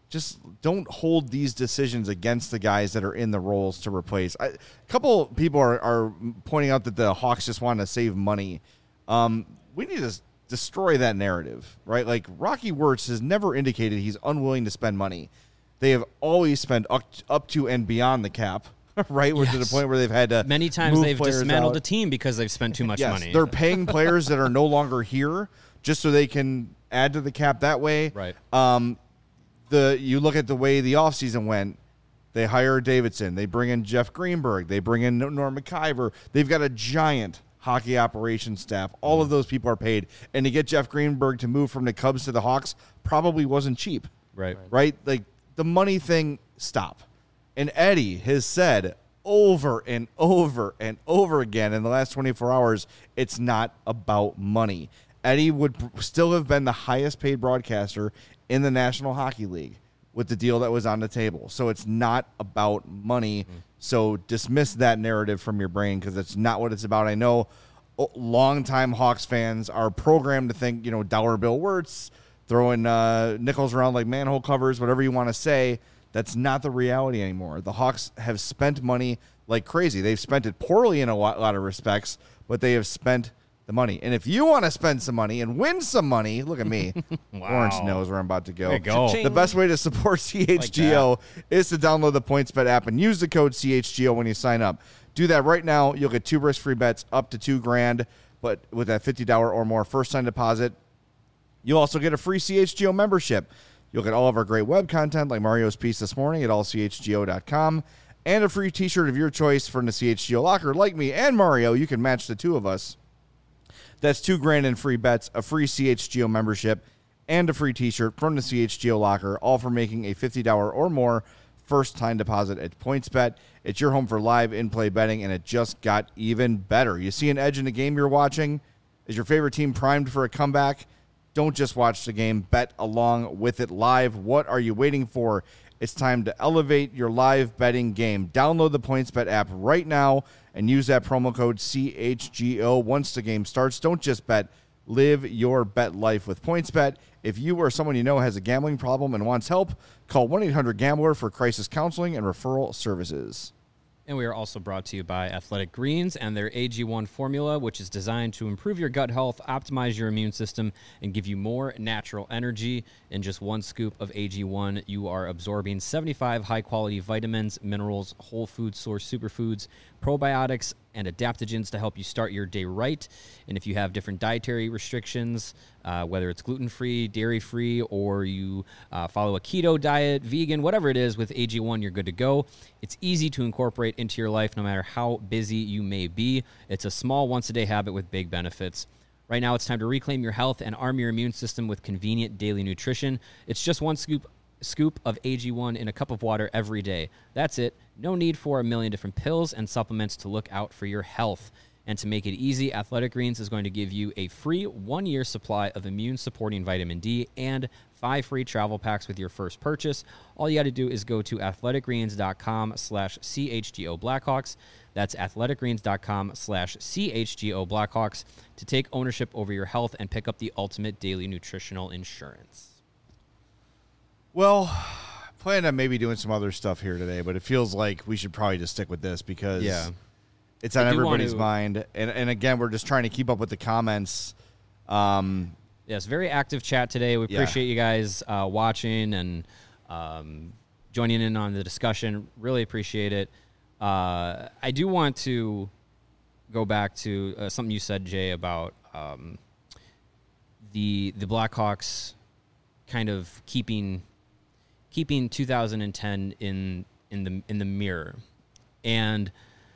just don't hold these decisions against the guys that are in the roles to replace. I, a couple people are, are pointing out that the Hawks just want to save money. Um, we need to destroy that narrative, right? Like Rocky Wirtz has never indicated he's unwilling to spend money. They have always spent up, up to and beyond the cap, right? Yes. To the point where they've had to many times they've dismantled out. a team because they've spent too much yes, money. They're paying players that are no longer here just so they can add to the cap that way. Right. Um, the you look at the way the offseason went. They hire Davidson. They bring in Jeff Greenberg. They bring in Norm McIver. They've got a giant hockey operations staff. All of those people are paid. And to get Jeff Greenberg to move from the Cubs to the Hawks probably wasn't cheap. Right. Right? Like, the money thing, stop. And Eddie has said over and over and over again in the last twenty-four hours, it's not about money. Eddie would still have been the highest paid broadcaster in the National Hockey League with the deal that was on the table. So it's not about money. Mm. So dismiss that narrative from your brain because it's not what it's about. I know longtime Hawks fans are programmed to think, you know, dollar bill Wirtz, throwing uh, nickels around like manhole covers, whatever you want to say. That's not the reality anymore. The Hawks have spent money like crazy. They've spent it poorly in a lot, lot of respects, but they have spent the money. And if you want to spend some money and win some money, look at me. Wow. Lawrence knows where I'm about to go. There you go. The best way to support C H G O like is to download the PointsBet app and use the code C H G O when you sign up. Do that right now. You'll get two risk-free bets up to two grand, but with that fifty dollars or more first-time deposit, you'll also get a free C H G O membership. You'll get all of our great web content like Mario's piece this morning at all c h g o dot com and a free t-shirt of your choice from the C H G O locker. Like me and Mario, you can match the two of us. That's two grand in free bets, a free C H G O membership, and a free t-shirt from the C H G O locker, all for making a fifty dollars or more first-time deposit at PointsBet. It's your home for live in-play betting, and it just got even better. You see an edge in the game you're watching? Is your favorite team primed for a comeback? Don't just watch the game. Bet along with it live. What are you waiting for? It's time to elevate your live betting game. Download the PointsBet app right now and use that promo code C H G O once the game starts. Don't just bet. Live your bet life with PointsBet. If you or someone you know has a gambling problem and wants help, call one eight hundred gambler for crisis counseling and referral services. And we are also brought to you by Athletic Greens and their A G one formula, which is designed to improve your gut health, optimize your immune system, and give you more natural energy. In just one scoop of A G one, you are absorbing seventy-five high-quality vitamins, minerals, whole food source superfoods, probiotics, and adaptogens to help you start your day right. And if you have different dietary restrictions, uh, whether it's gluten-free, dairy-free, or you uh, follow a keto diet, vegan, whatever it is, with A G one, you're good to go. It's easy to incorporate into your life no matter how busy you may be. It's a small once-a-day habit with big benefits. Right now, it's time to reclaim your health and arm your immune system with convenient daily nutrition. It's just one scoop scoop of A G one in a cup of water every day. That's it. No need for a million different pills and supplements to look out for your health. And to make it easy, Athletic Greens is going to give you a free one-year supply of immune-supporting vitamin D and five free travel packs with your first purchase. All you got to do is go to athleticgreens.com slash CHGO Blackhawks. That's athleticgreens.com slash CHGO Blackhawks to take ownership over your health and pick up the ultimate daily nutritional insurance. Well, plan on maybe doing some other stuff here today, but it feels like we should probably just stick with this because yeah. it's on I do everybody's want to- mind. And, and again, we're just trying to keep up with the comments. Um, Yes, very active chat today. We Yeah. appreciate you guys uh, watching and um, joining in on the discussion. Really appreciate it. Uh, I do want to go back to uh, something you said, Jay, about um, the the Blackhawks kind of keeping keeping two thousand ten in in the in the mirror. And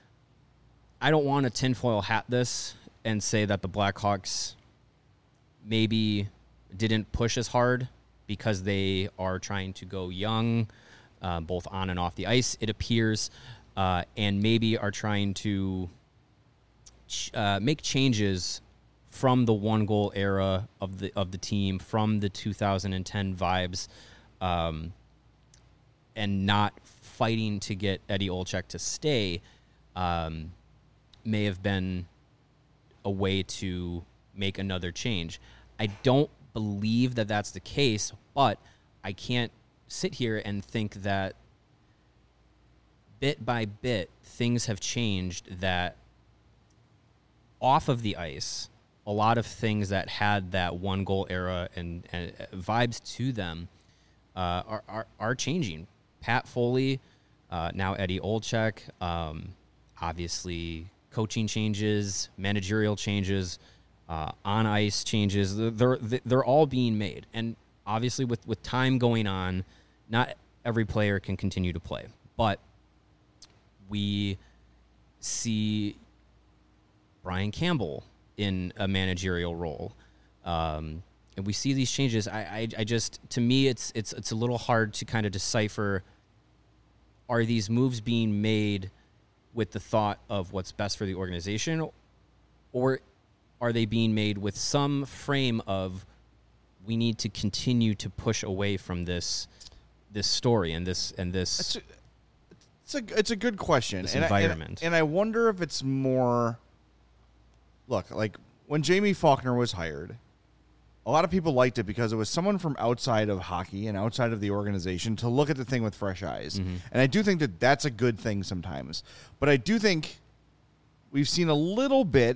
I don't want to tinfoil hat this and say that the Blackhawks maybe didn't push as hard because they are trying to go young, uh, both on and off the ice, it appears, uh, and maybe are trying to ch- uh, make changes from the one-goal era of the of the team, from the two thousand ten vibes, um, and not fighting to get Eddie Olczyk to stay, um, may have been a way to make another change. I don't believe that that's the case, but I can't sit here and think that bit by bit things have changed, that off of the ice, a lot of things that had that one goal era and, and vibes to them uh, are, are are changing. Pat Foley, uh, now Eddie Olczyk, um, obviously coaching changes, managerial changes, uh, on ice changes. They're they're all being made, and obviously with with time going on, not every player can continue to play, but we see Brian Campbell in a managerial role, um, and we see these changes. I, I, I just, to me, it's it's it's a little hard to kind of decipher. Are these moves being made with the thought of what's best for the organization, or are they being made with some frame of we need to continue to push away from this this story and this and this? It's a, it's a, it's a good question. This and environment, I, and, and I wonder if it's more. Look, like when Jamie Faulkner was hired, a lot of people liked it because it was someone from outside of hockey and outside of the organization to look at the thing with fresh eyes. Mm-hmm. And I do think that that's a good thing sometimes. But I do think we've seen a little bit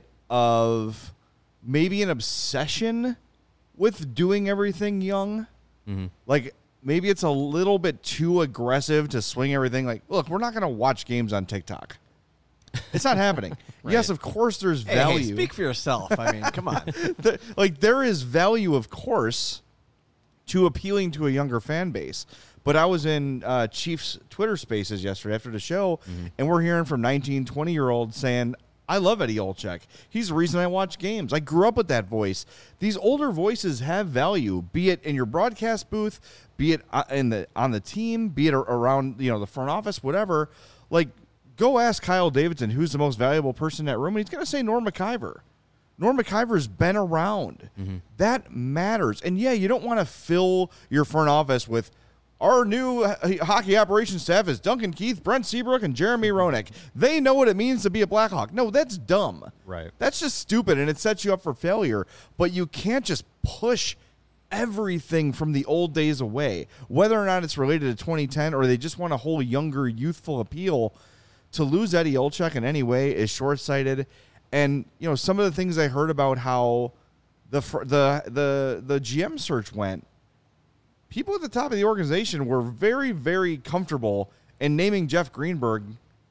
of maybe an obsession with doing everything young. Mm-hmm. Like maybe it's a little bit too aggressive to swing everything. Like, look, we're not going to watch games on TikTok. It's not happening. Right. Yes, of course there's hey, value. Hey, speak for yourself. I mean, come on. the, like, there is value, of course, to appealing to a younger fan base. But I was in uh, Chiefs Twitter Spaces yesterday after the show, mm-hmm. and we're hearing from nineteen, twenty-year-olds saying, I love Eddie Olczyk. He's the reason I watch games. I grew up with that voice. These older voices have value, be it in your broadcast booth, be it in the on the team, be it around, you know, the front office, whatever. Like, go ask Kyle Davidson who's the most valuable person in that room, and he's going to say Norm McIver. Norm McIver's been around. Mm-hmm. That matters. And, yeah, you don't want to fill your front office with our new hockey operations staff is Duncan Keith, Brent Seabrook, and Jeremy Roenick. They know what it means to be a Blackhawk. No, that's dumb. Right. That's just stupid, and it sets you up for failure. But you can't just push everything from the old days away, whether or not it's related to twenty ten or they just want a whole younger, youthful appeal. To lose Eddie Olczyk in any way is short-sighted. And, you know, some of the things I heard about how the the the the G M search went, people at the top of the organization were very, very comfortable in naming Jeff Greenberg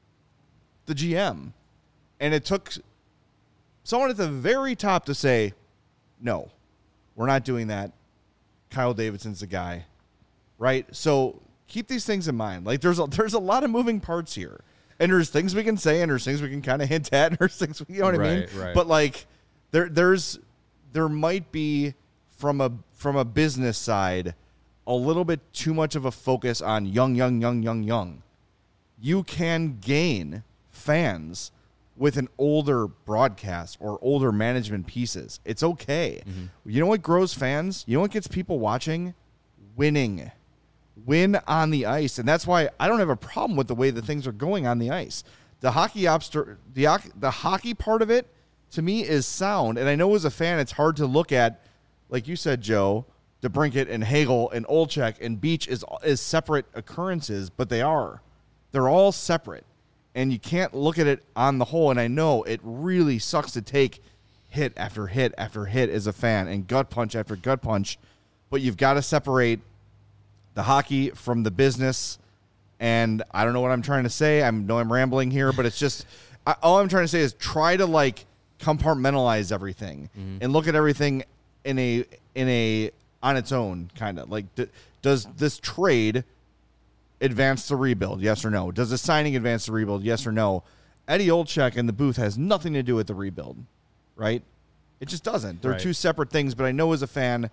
the G M. And it took someone at the very top to say, no, we're not doing that. Kyle Davidson's the guy. Right? So keep these things in mind. Like, there's a, there's a lot of moving parts here. And there's things we can say, and there's things we can kind of hint at, and there's things, you know what right, I mean? Right. But like, there, there's, there might be from a from a business side, a little bit too much of a focus on young, young, young, young, young. You can gain fans with an older broadcast or older management pieces. It's okay. Mm-hmm. You know what grows fans? You know what gets people watching? Winning. Win on the ice, and that's why I don't have a problem with the way that things are going on the ice. The hockey obster- the the hockey part of it, to me, is sound, and I know as a fan it's hard to look at, like you said, Joe, DeBrincat and Hagel and Olczyk and Beach is is separate occurrences, but they are. They're all separate, and you can't look at it on the whole, and I know it really sucks to take hit after hit after hit as a fan and gut punch after gut punch, but you've got to separate the hockey from the business, and I don't know what I'm trying to say. I know I'm rambling here, but it's just I, all I'm trying to say is try to like compartmentalize everything mm-hmm. and look at everything in a in a on its own kind of like. D- does this trade advance the rebuild? Yes or no? Does the signing advance the rebuild? Yes or no? Eddie Olczyk in the booth has nothing to do with the rebuild, right? It just doesn't. They're right. two separate things. But I know as a fan,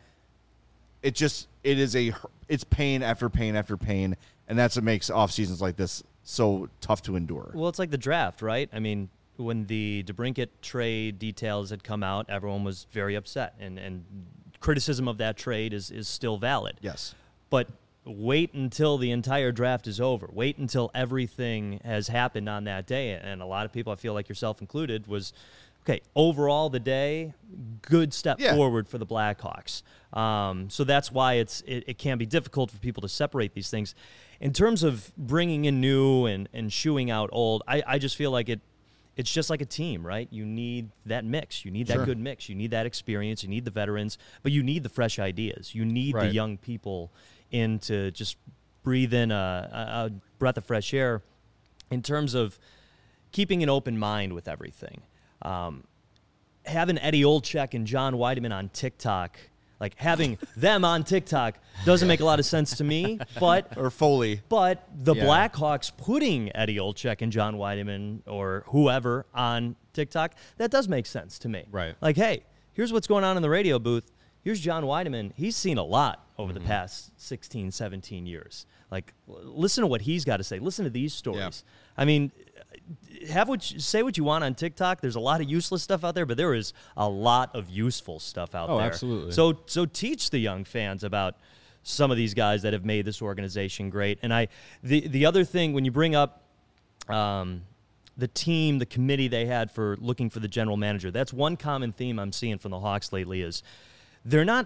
it just it is a it's pain after pain after pain, and that's what makes off seasons like this so tough to endure. Well, it's like the draft, right? I mean, when the DeBrincat trade details had come out, everyone was very upset, and, and criticism of that trade is, is still valid. Yes. But wait until the entire draft is over. Wait until everything has happened on that day, and a lot of people, I feel like yourself included, was okay, overall the day, good step Yeah. forward for the Blackhawks. Um, so that's why it's it, it can be difficult for people to separate these things. In terms of bringing in new and, and shooing out old, I, I just feel like it. It's just like a team, right? You need that mix. You need that Sure. good mix. You need that experience. You need the veterans, but you need the fresh ideas. You need the Right. young people in to just breathe in a, a, a breath of fresh air in terms of keeping an open mind with everything. Um, having Eddie Olczyk and John Weideman on TikTok, like having them on TikTok doesn't make a lot of sense to me, but Or Foley. but the Yeah. Blackhawks putting Eddie Olczyk and John Weideman or whoever on TikTok, that does make sense to me. Right. Like, hey, here's what's going on in the radio booth. Here's John Weideman. He's seen a lot over Mm-hmm. the past sixteen, seventeen years. Like, l- listen to what he's got to say. Listen to these stories. I mean, have what you, say what you want on TikTok. There's a lot of useless stuff out there, but there is a lot of useful stuff out Oh, there. absolutely. So so teach the young fans about some of these guys that have made this organization great. And I the the other thing when you bring up um, the team, the committee they had for looking for the general manager, that's one common theme I'm seeing from the Hawks lately is they're not.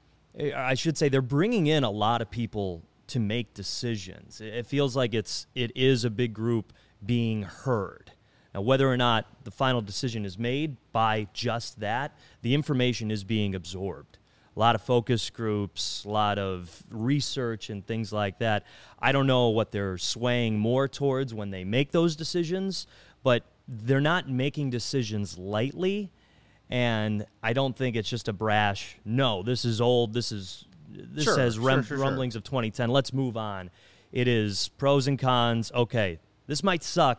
I should say they're bringing in a lot of people to make decisions. It feels like it's it is a big group being heard. Now, whether or not the final decision is made by just that, the information is being absorbed. A lot of focus groups, a lot of research and things like that. I don't know what they're swaying more towards when they make those decisions, but they're not making decisions lightly. And I don't think it's just a brash, no, this is old, this is this Sure, says rem- sure, sure, sure. rumblings of twenty ten, let's move on. It is pros and cons, okay, this might suck,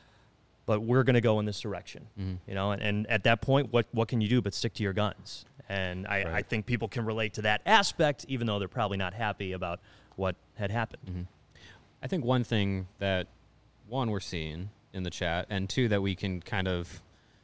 but we're going to go in this direction. Mm-hmm. You know, and, and at that point, what, what can you do but stick to your guns? And I, I think people can relate to that aspect, even though they're probably not happy about what had happened. Mm-hmm. I think one thing that, one, we're seeing in the chat, and two, that we can kind of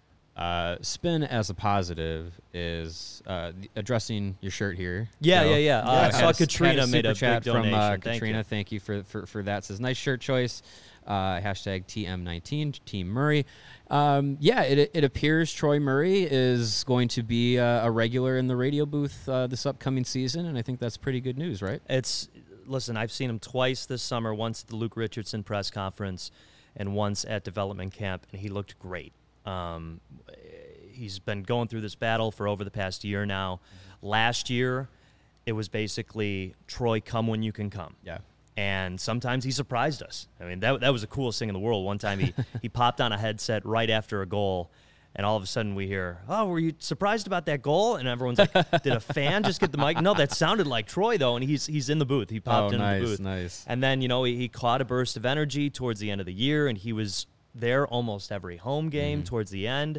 uh, spin as a positive is uh, the- addressing your shirt here. Yeah, Joe. yeah, yeah. Uh, I had saw a- Katrina had a made super a chat big from donation. uh, Thank Katrina. you. Thank you for, for, for that. It says, nice shirt choice. Uh, hashtag T M nineteen, Team Murray. Um, yeah, it, it appears Troy Murray is going to be uh, a regular in the radio booth uh, this upcoming season, and I think that's pretty good news, right? It's listen, I've seen him twice this summer, once at the Luke Richardson press conference and once at development camp, and he looked great. Um, he's been going through this battle for over the past year now. Mm-hmm. Last year, it was basically Troy, come when you can come. Yeah. And sometimes he surprised us. I mean, that that was the coolest thing in the world. One time he, he popped on a headset right after a goal, and all of a sudden we hear, oh, were you surprised about that goal? And everyone's like, did a fan just get the mic? No, that sounded like Troy, though, and he's he's in the booth. He popped Oh, into nice, the booth. nice. And then, you know, he, he caught a burst of energy towards the end of the year, and he was there almost every home game Mm-hmm. towards the end.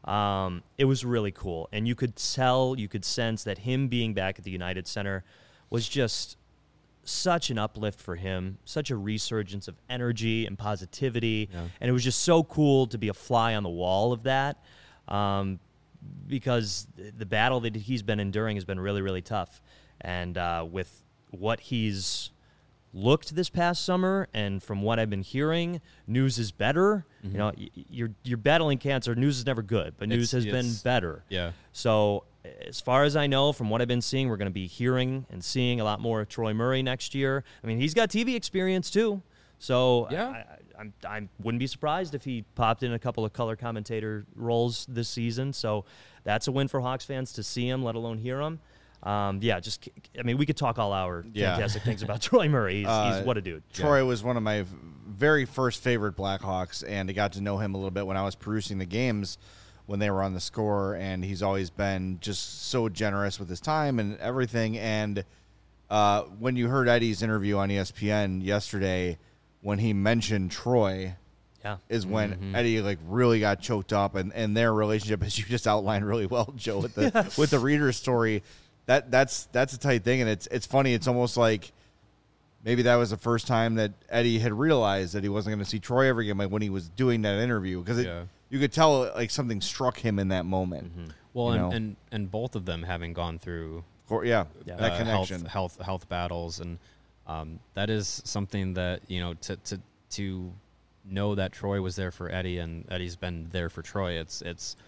Um, it was really cool. And you could tell, you could sense that him being back at the United Center was just such an uplift for him, such a resurgence of energy and positivity. Yeah. And it was just so cool to be a fly on the wall of that, um, because the battle that he's been enduring has been really, really tough. And uh, with what he's looked this past summer, and from what I've been hearing, news is better. Mm-hmm. You know, y- you're you're battling cancer. News is never good, but news It's- has been it's- better. Yeah. So, as far as I know, from what I've been seeing, we're going to be hearing and seeing a lot more of Troy Murray next year. I mean, he's got T V experience too. So, Yeah. I, I, I'm, I wouldn't be surprised if he popped in a couple of color commentator roles this season. So, that's a win for Hawks fans to see him, let alone hear him. Um, yeah, just, I mean, we could talk all hour Yeah. fantastic things about Troy Murray. He's, Uh, he's what a dude. Troy was one of my v- very first favorite Blackhawks, and I got to know him a little bit when I was perusing the games when they were on the Score, and he's always been just so generous with his time and everything. And uh, when you heard Eddie's interview on E S P N yesterday, when he mentioned Troy, Yeah. is when Eddie like really got choked up, and, and their relationship, as you just outlined really well, Joe, with the with the Reader's story. That that's that's a tight thing, and it's it's funny. It's almost like maybe that was the first time that Eddie had realized that he wasn't going to see Troy ever again, like when he was doing that interview, because Yeah. you could tell like something struck him in that moment. Well, You and, know? and and both of them having gone through Or, yeah, Yeah. that uh, connection. health, health health battles, and um, that is something that, you know, to to to know that Troy was there for Eddie and Eddie's been there for Troy. It's it's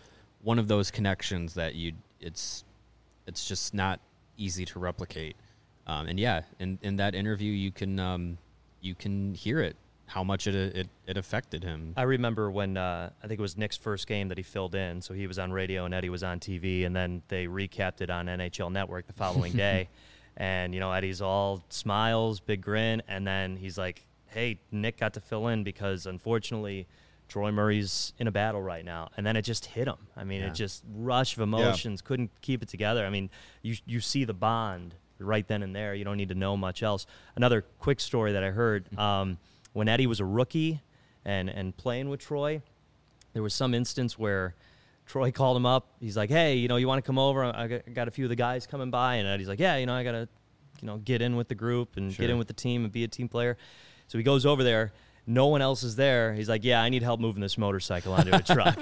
one of those connections that you it's it's just not easy to replicate. Um, and yeah, in, in that interview, you can um, you can hear it, how much it it, it affected him. I remember when uh, I think it was Nick's first game that he filled in. So he was on radio and Eddie was on T V, and then they recapped it on N H L Network the following day. And, you know, Eddie's all smiles, big grin, and then he's like, hey, Nick got to fill in because, unfortunately, Troy Murray's in a battle right now. And then it just hit him. I mean, Yeah. it just rush of emotions, yeah. couldn't keep it together. I mean, you you see the bond right then and there. You don't need to know much else. Another quick story that I heard, um, when Eddie was a rookie and, and playing with Troy, there was some instance where Troy called him up. He's like, hey, you know, you want to come over? I got a few of the guys coming by. And Eddie's like, yeah, you know, I got to, you know, get in with the group and Sure. get in with the team and be a team player. So he goes over there. No one else is there. He's like, yeah, I need help moving this motorcycle onto a truck.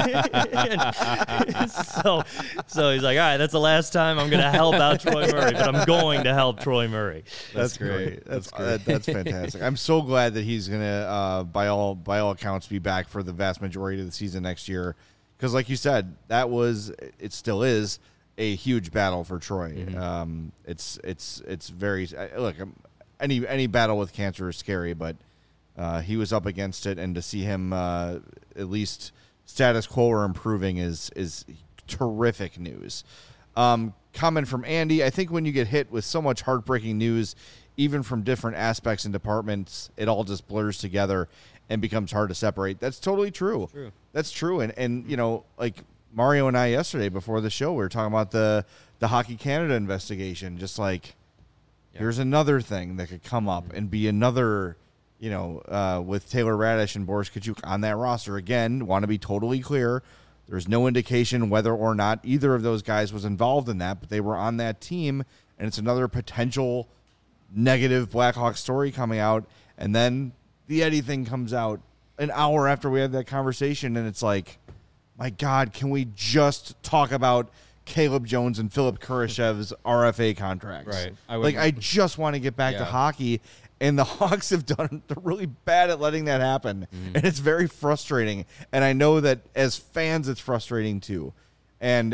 so, so he's like, all right, that's the last time I'm going to help out Troy Murray, but I'm going to help Troy Murray. That's, that's great. That's that's, great. That, that's fantastic. I'm so glad that he's going to, uh, by all by all accounts, be back for the vast majority of the season next year. Because, like you said, that was, it still is a huge battle for Troy. Mm-hmm. Um, it's it's it's very look. Any any battle with cancer is scary, but uh, he was up against it, and to see him uh, at least status quo or improving is is terrific news. Um, comment from Andy: I think when you get hit with so much heartbreaking news, even from different aspects and departments, it all just blurs together and becomes hard to separate. That's totally true. True. That's true. And, and, you know, like Mario and I yesterday before the show, we were talking about the, the Hockey Canada investigation. Just like, yeah. here's another thing that could come up mm-hmm. and be another, you know, uh, with Taylor Radish and Boris Kachuk on that roster. Again, want to be totally clear. There's no indication whether or not either of those guys was involved in that, but they were on that team. And it's another potential negative Blackhawks story coming out. And then the Eddie thing comes out an hour after we had that conversation, and it's like, my God, can we just talk about Caleb Jones and Philip Kurashev's R F A contracts? Right. I would, like, I just want to get back yeah. to hockey, and the Hawks have done, they're really bad at letting that happen, mm-hmm. and it's very frustrating, and I know that as fans, it's frustrating too. And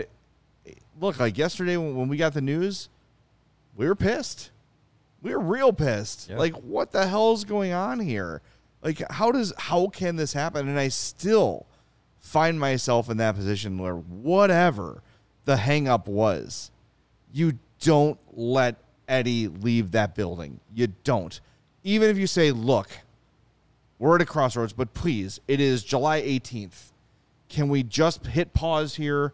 look, like yesterday when we got the news, we were pissed. We were real pissed. Yep. Like, what the hell is going on here? Like, how does how can this happen? And I still find myself in that position where whatever the hang-up was, you don't let Eddie leave that building. You don't. Even if you say, look, we're at a crossroads, but please, it is July eighteenth. Can we just hit pause here?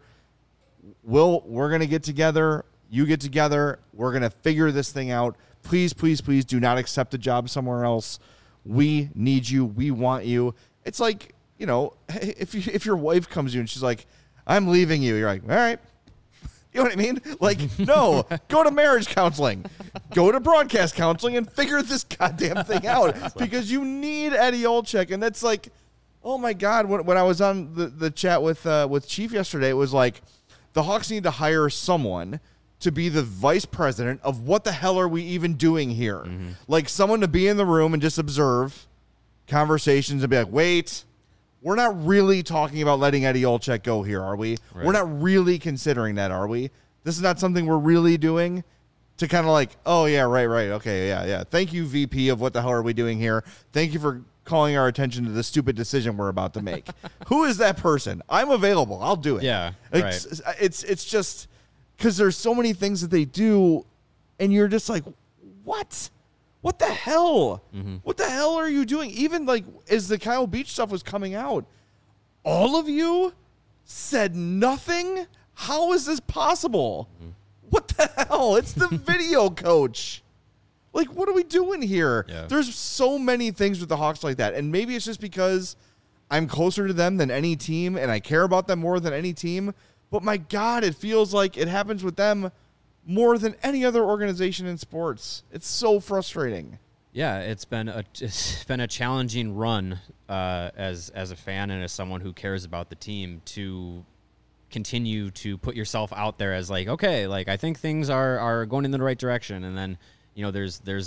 We'll, we're going to get together. You get together. We're going to figure this thing out. Please, please, please do not accept a job somewhere else. We need you. We want you. It's like, you know, if you, if your wife comes to you and she's like, I'm leaving you. You're like, all right. You know what I mean? Like, no, go to marriage counseling. Go to broadcast counseling and figure this goddamn thing out because you need Eddie Olczyk. And that's like, oh, my God. When, when I was on the, the chat with uh, with Chief yesterday, it was like the Hawks need to hire someone to be the vice president of what the hell are we even doing here? Mm-hmm. Like someone to be in the room and just observe conversations and be like, wait, we're not really talking about letting Eddie Olczyk go here, are we? Right. We're not really considering that, are we? This is not something we're really doing to kind of like, oh, yeah, right, right. Okay, yeah, yeah. Thank you, V P of what the hell are we doing here? Thank you for calling our attention to the stupid decision we're about to make. Who is that person? I'm available. I'll do it. Yeah, it's, right. It's, it's just... Because there's so many things that they do, and you're just like, what? What the hell? Mm-hmm. What the hell are you doing? Even, like, as the Kyle Beach stuff was coming out, all of you said nothing? How is this possible? Mm-hmm. What the hell? It's the video coach. Like, what are we doing here? Yeah. There's so many things with the Hawks like that, and maybe it's just because I'm closer to them than any team, and I care about them more than any team. But my God, it feels like it happens with them more than any other organization in sports. It's so frustrating. Yeah, it's been a it's been a challenging run uh, as as a fan and as someone who cares about the team to continue to put yourself out there as like, okay, like I think things are, are going in the right direction, and then you know there's there's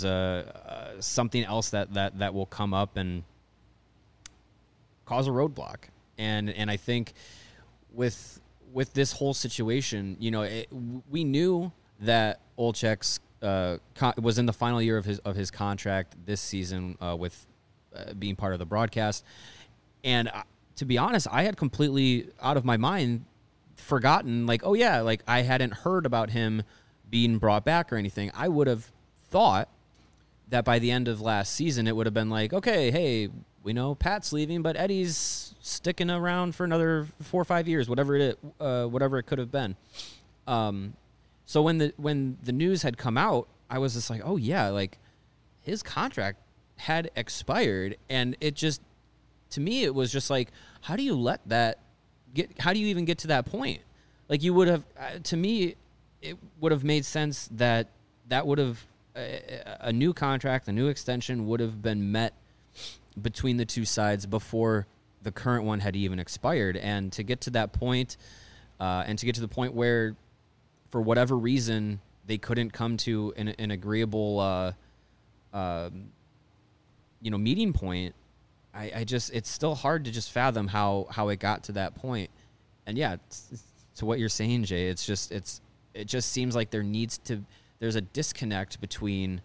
a uh, something else that, that that will come up and cause a roadblock, and and I think with with this whole situation, you know, it, we knew that Olczyk's uh, con- was in the final year of his of his contract this season uh, with uh, being part of the broadcast. And uh, to be honest, I had completely out of my mind forgotten, like, oh yeah, like I hadn't heard about him being brought back or anything. I would have thought that by the end of last season, it would have been like, okay, hey, we know Pat's leaving, but Eddie's sticking around for another four or five years, whatever it, uh, whatever it could have been. Um, so when the when the news had come out, I was just like, oh yeah, like his contract had expired, and it just, to me, it was just like, how do you let that get? How do you even get to that point? Like you would have, uh, to me, it would have made sense that that would have a, a new contract, a new extension would have been met between the two sides before the current one had even expired. And to get to that point, uh, and to get to the point where, for whatever reason, they couldn't come to an, an agreeable, uh, uh, you know, meeting point. I, I just, it's still hard to just fathom how, how it got to that point. And yeah, it's, to what you're saying, Jay, it's just, it's, it just seems like there needs to, there's a disconnect between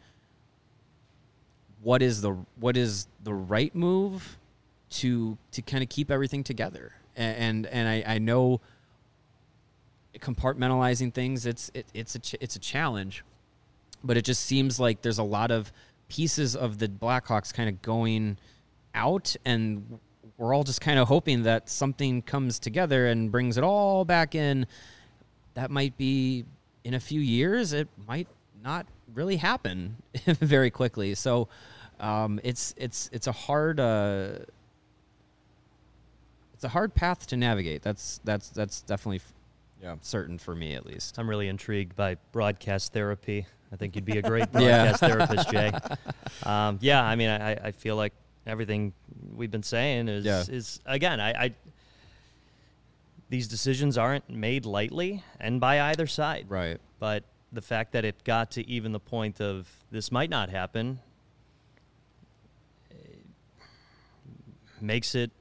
what is the, what is the right move to, to kind of keep everything together. And, and, and I, I know compartmentalizing things, it's, it, it's a, ch- it's a challenge, but it just seems like there's a lot of pieces of the Blackhawks kind of going out, and we're all just kind of hoping that something comes together and brings it all back in. That might be in a few years. It might not really happen very quickly. So um, it's it's it's a hard uh, it's a hard path to navigate. That's that's that's definitely yeah certain for me, at least. I'm really intrigued by broadcast therapy. I think you'd be a great broadcast yeah. therapist, Jay. Um, yeah, I mean, I, I feel like everything we've been saying is yeah. is again, I, I these decisions aren't made lightly and by either side. Right. But the fact that it got to even the point of this might not happen makes it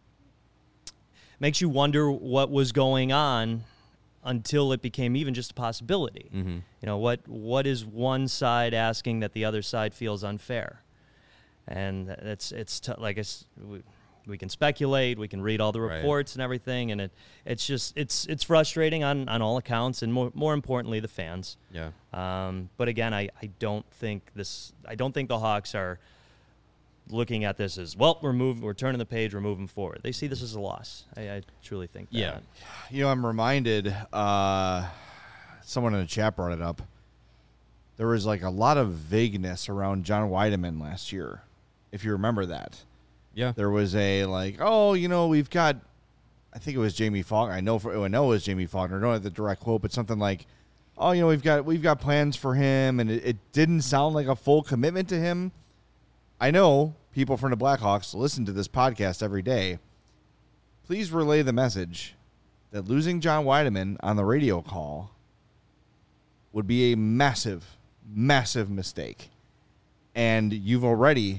makes you wonder what was going on until it became even just a possibility. Mm-hmm. You know, what what is one side asking that the other side feels unfair? And it's it's t- like it's, we, we can speculate, we can read all the reports right. and everything, and it it's just it's it's frustrating on, on all accounts, and more more importantly, the fans. Yeah. Um. But again, I, I don't think this. I don't think the Hawks are looking at this as, well, we're moving, we're turning the page, we're moving forward. They see this as a loss. I, I truly think that. Yeah. You know, I'm reminded. Uh, someone in the chat brought it up. There was like a lot of vagueness around John Wiedemann last year, if you remember that. Yeah. There was a like, oh, you know, we've got, I think it was Jamie Faulkner. I know for I know it was Jamie Faulkner. I don't have the direct quote, but something like, oh, you know, we've got we've got plans for him, and it, it didn't sound like a full commitment to him. I know people from the Blackhawks listen to this podcast every day. Please relay the message that losing John Wiedemann on the radio call would be a massive, massive mistake. And you've already,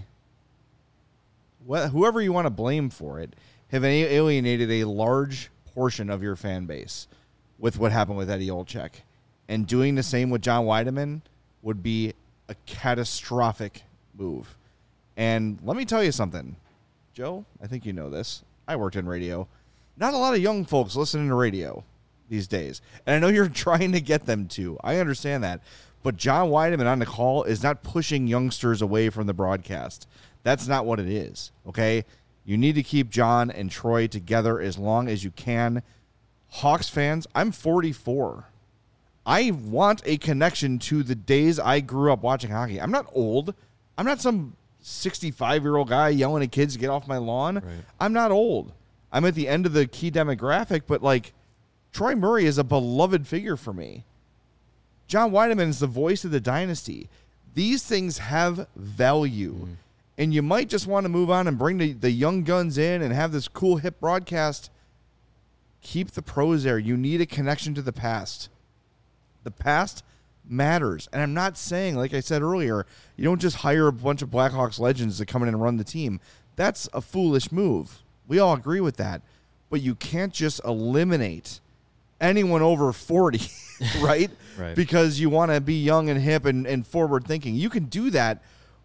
wh- whoever you want to blame for it, have alienated a large portion of your fan base with what happened with Eddie Olczyk. And doing the same with John Wiedemann would be a catastrophic move. And let me tell you something, Joe, I think you know this. I worked in radio. Not a lot of young folks listening to radio these days. And I know you're trying to get them to. I understand that. But John Wiedemann on the call is not pushing youngsters away from the broadcast. That's not what it is, okay? You need to keep John and Troy together as long as you can. Hawks fans, I'm forty-four. I want a connection to the days I grew up watching hockey. I'm not old. I'm not some sixty-five-year-old guy yelling at kids to get off my lawn. Right. I'm not old. I'm at the end of the key demographic, but, like, Troy Murray is a beloved figure for me. John Wiedemann is the voice of the dynasty. These things have value. Mm. And you might just want to move on and bring the, the young guns in and have this cool, hip broadcast. Keep the pros there. You need a connection to the past. The past matters. And I'm not saying, like I said earlier, you don't just hire a bunch of Blackhawks legends to come in and run the team. That's a foolish move. We all agree with that. But you can't just eliminate anyone over forty, right? Right. Because you want to be young and hip and, and forward thinking. You can do that.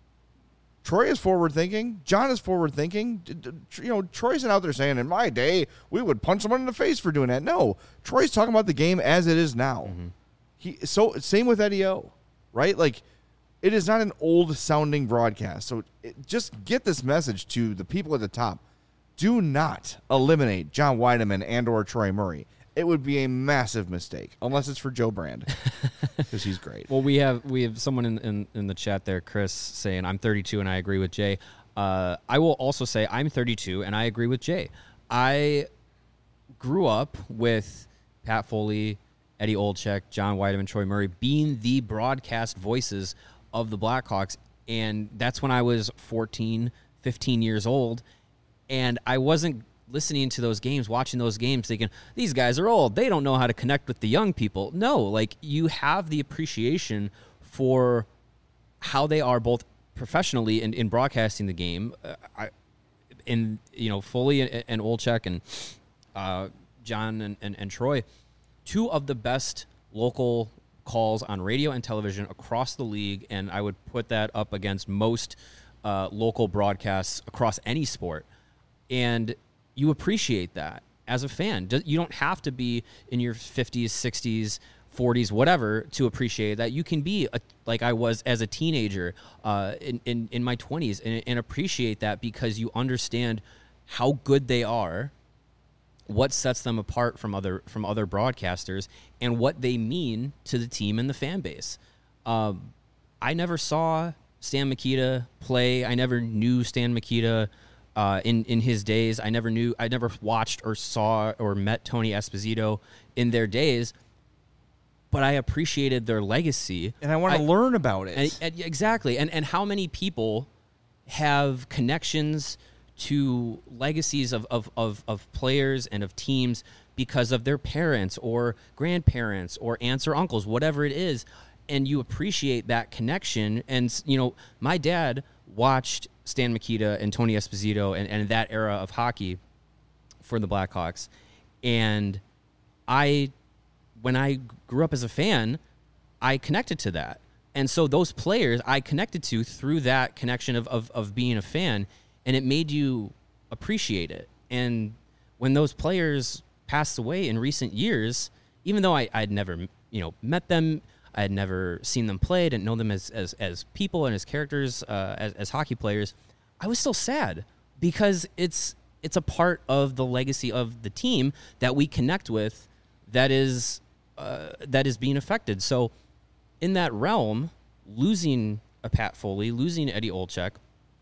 Troy is forward thinking. John is forward thinking. You know, Troy isn't out there saying, in my day, we would punch someone in the face for doing that. No, Troy's talking about the game as it is now. Mm-hmm. He so same with Eddie O, right? Like, it is not an old sounding broadcast. So it, just get this message to the people at the top. Do not eliminate John Weideman and or Troy Murray. It would be a massive mistake, unless it's for Joe Brand, because he's great. Well, we have we have someone in, in, in the chat there, Chris, saying, I'm thirty-two and I agree with Jay. Uh, I will also say I'm thirty-two and I agree with Jay. I grew up with Pat Foley, Eddie Olczyk, John Weideman, Troy Murray being the broadcast voices of the Blackhawks, and that's when I was fourteen, fifteen years old, and I wasn't listening to those games, watching those games, thinking, these guys are old. They don't know how to connect with the young people. No, like, you have the appreciation for how they are both professionally and in broadcasting the game. Uh, I, in, you know, Foley and, and Olczyk and uh, John and, and, and Troy, two of the best local calls on radio and television across the league, and I would put that up against most uh, local broadcasts across any sport. And you appreciate that as a fan. You don't have to be in your fifties, sixties, forties, whatever, to appreciate that. You can be a, like I was as a teenager uh, in, in, in my twenties and, and appreciate that because you understand how good they are, what sets them apart from other from other broadcasters, and what they mean to the team and the fan base. Um, I never saw Stan Mikita play. I never knew Stan Mikita uh, in in his days. I never knew. I never watched or saw or met Tony Esposito in their days. But I appreciated their legacy, and I want to learn about it. And, and, exactly, and and how many people have connections to legacies of, of, of, of players and of teams because of their parents or grandparents or aunts or uncles, whatever it is, and you appreciate that connection. And, you know, my dad watched Stan Mikita and Tony Esposito and, and that era of hockey for the Blackhawks. And I, when I grew up as a fan, I connected to that. And so those players I connected to through that connection of, of, of being a fan, and it made you appreciate it. And when those players passed away in recent years, even though I had never, you know, met them, I had never seen them play, didn't know them as as, as people and as characters, uh, as, as hockey players, I was still sad because it's it's a part of the legacy of the team that we connect with that is uh, that is being affected. So in that realm, losing a Pat Foley, losing Eddie Olczyk,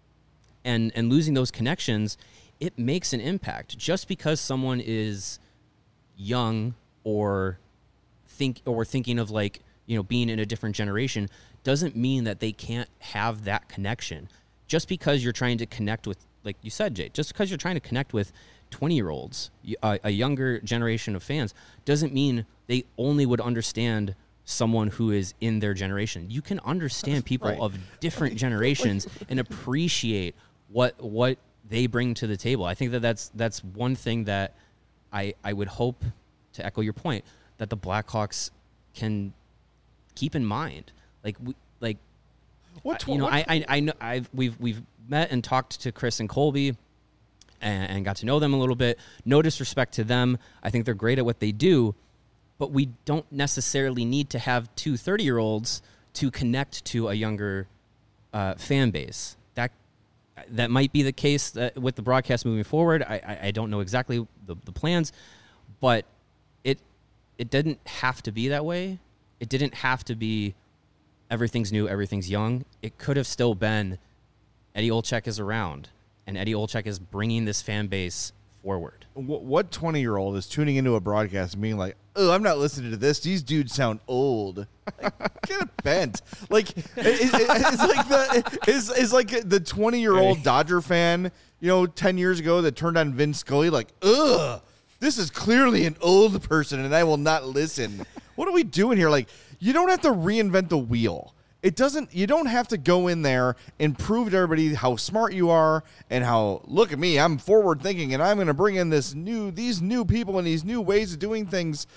and and losing those connections, it makes an impact. Just because someone is young or think or thinking of, like, you know, being in a different generation doesn't mean that they can't have that connection. Just because you're trying to connect with, like you said, Jay, just because you're trying to connect with twenty-year-olds, a, a younger generation of fans, doesn't mean they only would understand someone who is in their generation. You can understand people right. of different generations and appreciate what what they bring to the table. I think that that's that's one thing that I I would hope, to echo your point, that the Blackhawks can keep in mind. Like we, like what you know what, I I I know I've we've we've met and talked to Chris and Colby and, and got to know them a little bit. No disrespect to them. I think they're great at what they do. But we don't necessarily need to have two thirty-year-olds to connect to a younger uh, fan base. That that might be the case that with the broadcast moving forward. I, I, I don't know exactly the, the plans, but it it didn't have to be that way. It didn't have to be everything's new, everything's young. It could have still been Eddie Olczyk is around, and Eddie Olczyk is bringing this fan base forward. What twenty-year-old is tuning into a broadcast and being like, oh, I'm not listening to this. These dudes sound old. Like, get it bent. Like, it, it, it's like the it's, it's like the twenty-year-old Dodger fan, you know, ten years ago that turned on Vin Scully, like, ugh, this is clearly an old person and I will not listen. What are we doing here? Like, you don't have to reinvent the wheel. It doesn't, you don't have to go in there and prove to everybody how smart you are and how, look at me, I'm forward thinking and I'm going to bring in this new, these new people and these new ways of doing things.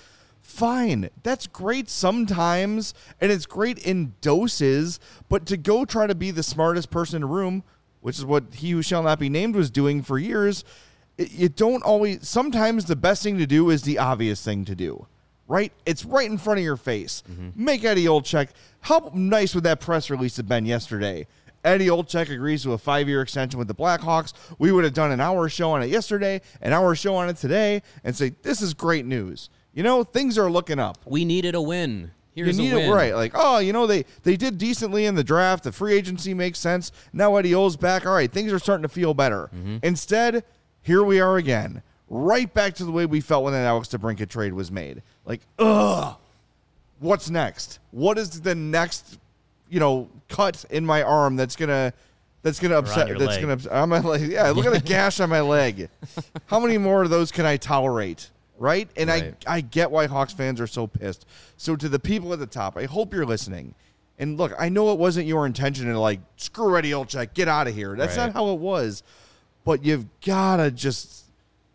fine. That's great sometimes, and it's great in doses, but to go try to be the smartest person in the room, which is what He Who Shall Not Be Named was doing for years, it, you don't always, sometimes the best thing to do is the obvious thing to do, right? It's right in front of your face. Mm-hmm. Make Eddie Olczyk. How nice would that press release have been yesterday? Eddie Olczyk agrees to a five-year extension with the Blackhawks. We would have done an hour show on it yesterday, an hour show on it today, and say, this is great news. You know, things are looking up. We needed a win. Here's you need a win. It right. Like, oh, you know, they, they did decently in the draft. The free agency makes sense. Now Eddie O's back. All right, things are starting to feel better. Mm-hmm. Instead, here we are again, right back to the way we felt when that Alex DeBrincat trade was made. Like, ugh, what's next? What is the next, you know, cut in my arm that's gonna that's gonna upset that's leg. gonna upset on my leg? Yeah, look at the gash on my leg. How many more of those can I tolerate? Right? And right. I I get why Hawks fans are so pissed. So to the people at the top, I hope you're listening. And look, I know it wasn't your intention to like screw Eddie Olczyk, get out of here. That's right. Not how it was. But you've gotta just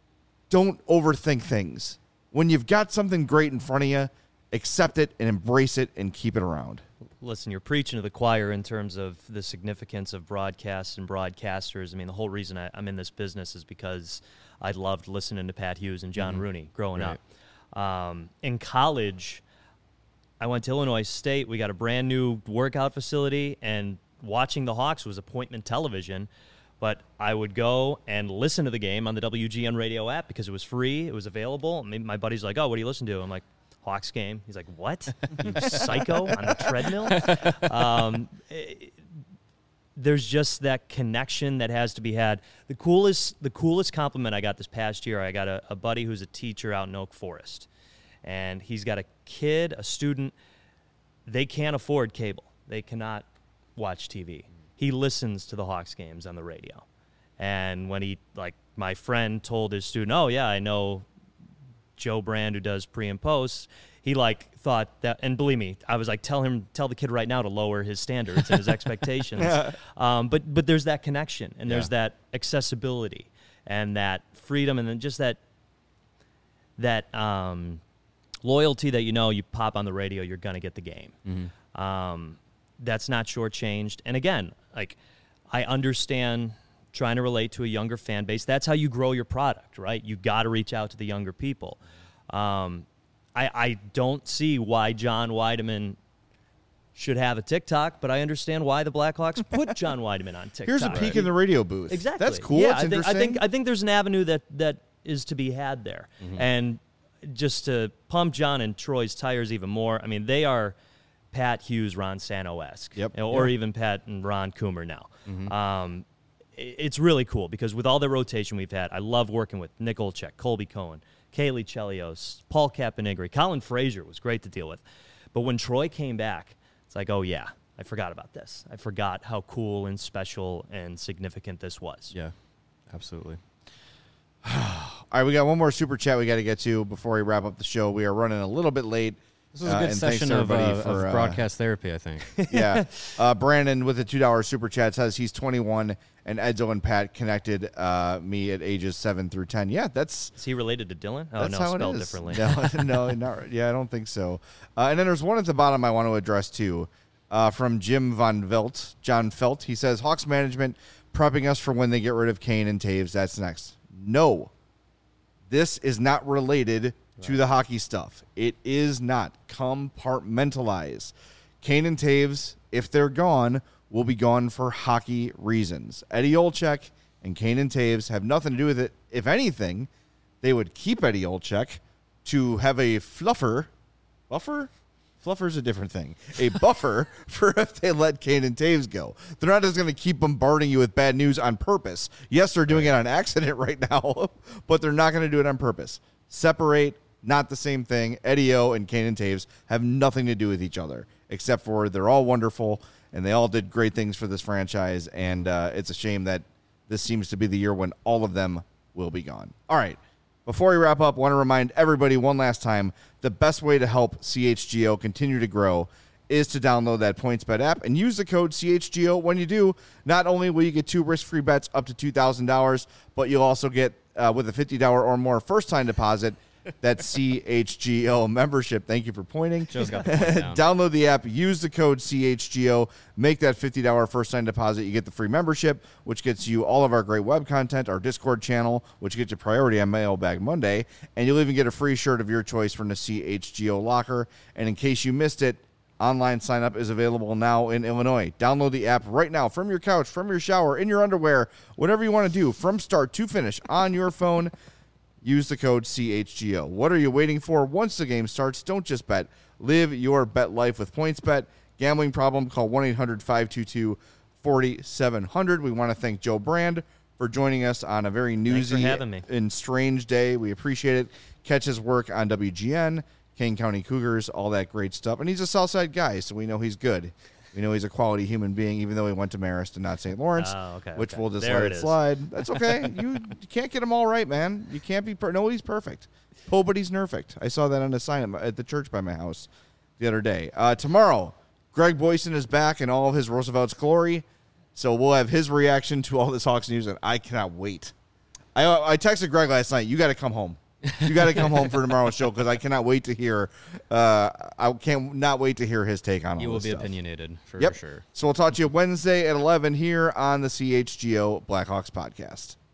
don't overthink things. When you've got something great in front of you, accept it and embrace it and keep it around. Listen, you're preaching to the choir in terms of the significance of broadcasts and broadcasters. I mean, the whole reason I, I'm in this business is because I loved listening to Pat Hughes and John mm-hmm. Rooney growing right. up. Um, in college, I went to Illinois State. We got a brand new workout facility, and watching the Hawks was appointment television. But I would go and listen to the game on the W G N radio app because it was free. It was available. And my buddy's like, oh, what do you listen to? I'm like, Hawks game. He's like, what? You psycho on the treadmill? Um, it, there's just that connection that has to be had. The coolest the coolest compliment I got this past year, I got a, a buddy who's a teacher out in Oak Forest. And he's got a kid, a student. They can't afford cable. They cannot watch T V. He listens to the Hawks games on the radio. And when he, like, my friend told his student, oh, yeah, I know Joe Brand who does pre and post, he like thought that, and believe me, I was like, tell him, tell the kid right now to lower his standards and his expectations. Yeah. Um, but but there's that connection, and there's yeah. that accessibility and that freedom, and then just that that um, loyalty that, you know, you pop on the radio, you're gonna get the game. Mm-hmm. Um, that's not shortchanged. And again, like, I understand trying to relate to a younger fan base. That's how you grow your product, right? You got to reach out to the younger people. Um, I, I don't see why John Weideman should have a TikTok, but I understand why the Blackhawks put John Weideman on TikTok. Here's a peek right? in the radio booth. Exactly. That's cool. Yeah, That's I think, interesting. I think I think there's an avenue that, that is to be had there. Mm-hmm. And just to pump John and Troy's tires even more, I mean, they are Pat Hughes, Ron Santo-esque, yep. or yep. even Pat and Ron Coomer now. Mm-hmm. Um, it's really cool because with all the rotation we've had, I love working with Nick Olczyk, Colby Cohen, Kaylee Chelios, Paul Caponigri. Colin Frazier was great to deal with. But when Troy came back, it's like, oh, yeah, I forgot about this. I forgot how cool and special and significant this was. Yeah, absolutely. All right, we got one more super chat we got to get to before we wrap up the show. We are running a little bit late. This was a good uh, session of, uh, for, of broadcast uh, therapy, I think. Yeah. Uh, Brandon with a two dollar super chat says he's twenty-one and Edzo and Pat connected uh, me at ages seven through ten. Yeah, that's... Is he related to Dylan? Oh, that's no, how spelled it is. differently. No, no, not, yeah, I don't think so. Uh, and then there's one at the bottom I want to address, too, uh, from Jim Von Velt, John Felt. He says, Hawks management prepping us for when they get rid of Kane and Taves. That's next. No. This is not related to the hockey stuff. It is not. Compartmentalize. Kane and Taves, if they're gone, will be gone for hockey reasons. Eddie Olczyk and Kane and Taves have nothing to do with it. If anything, they would keep Eddie Olczyk to have a fluffer. Buffer? Fluffer's a different thing. A buffer for if they let Kane and Taves go. They're not just going to keep bombarding you with bad news on purpose. Yes, they're doing it on accident right now, but they're not going to do it on purpose. Separate. Not the same thing. Eddie O and Kane and Taves have nothing to do with each other, except for they're all wonderful, and they all did great things for this franchise, and uh, it's a shame that this seems to be the year when all of them will be gone. All right, before we wrap up, I want to remind everybody one last time, the best way to help C H G O continue to grow is to download that PointsBet app and use the code C H G O. When you do, not only will you get two risk-free bets up to two thousand dollars, but you'll also get, uh, with a fifty dollars or more first-time deposit, that C H G O membership. Thank you for pointing. Joe's got the point down. Download the app, use the code C H G O, make that fifty dollars first time deposit. You get the free membership, which gets you all of our great web content, our Discord channel, which gets you priority on Mailbag Monday, and you'll even get a free shirt of your choice from the C H G O locker. And in case you missed it, online sign up is available now in Illinois. Download the app right now from your couch, from your shower, in your underwear, whatever you want to do, from start to finish on your phone. Use the code C H G O. What are you waiting for? Once the game starts, don't just bet. Live your bet life with PointsBet. Gambling problem? Call one eight hundred five two two four seven zero zero. We want to thank Joe Brand for joining us on a very newsy and strange day. We appreciate it. Catch his work on W G N, Kane County Cougars, all that great stuff. And he's a Southside guy, so we know he's good. We know he's a quality human being, even though he went to Marist and not Saint Lawrence, oh, okay, which okay. we'll just there let it it is. slide. That's okay. you, you can't get them all right, man. You can't be per- – nobody's perfect. Nobody's perfect. I saw that on a sign at, my, at the church by my house the other day. Uh, tomorrow, Greg Boyson is back in all of his Roosevelt's glory, so we'll have his reaction to all this Hawks news, and I cannot wait. I, I texted Greg last night, you got to come home. You got to come home for tomorrow's show because I cannot wait to hear. Uh, I can't not wait to hear his take on all You will this be stuff. opinionated for Yep. sure. So we'll talk to you Wednesday at eleven here on the C H G O Blackhawks podcast.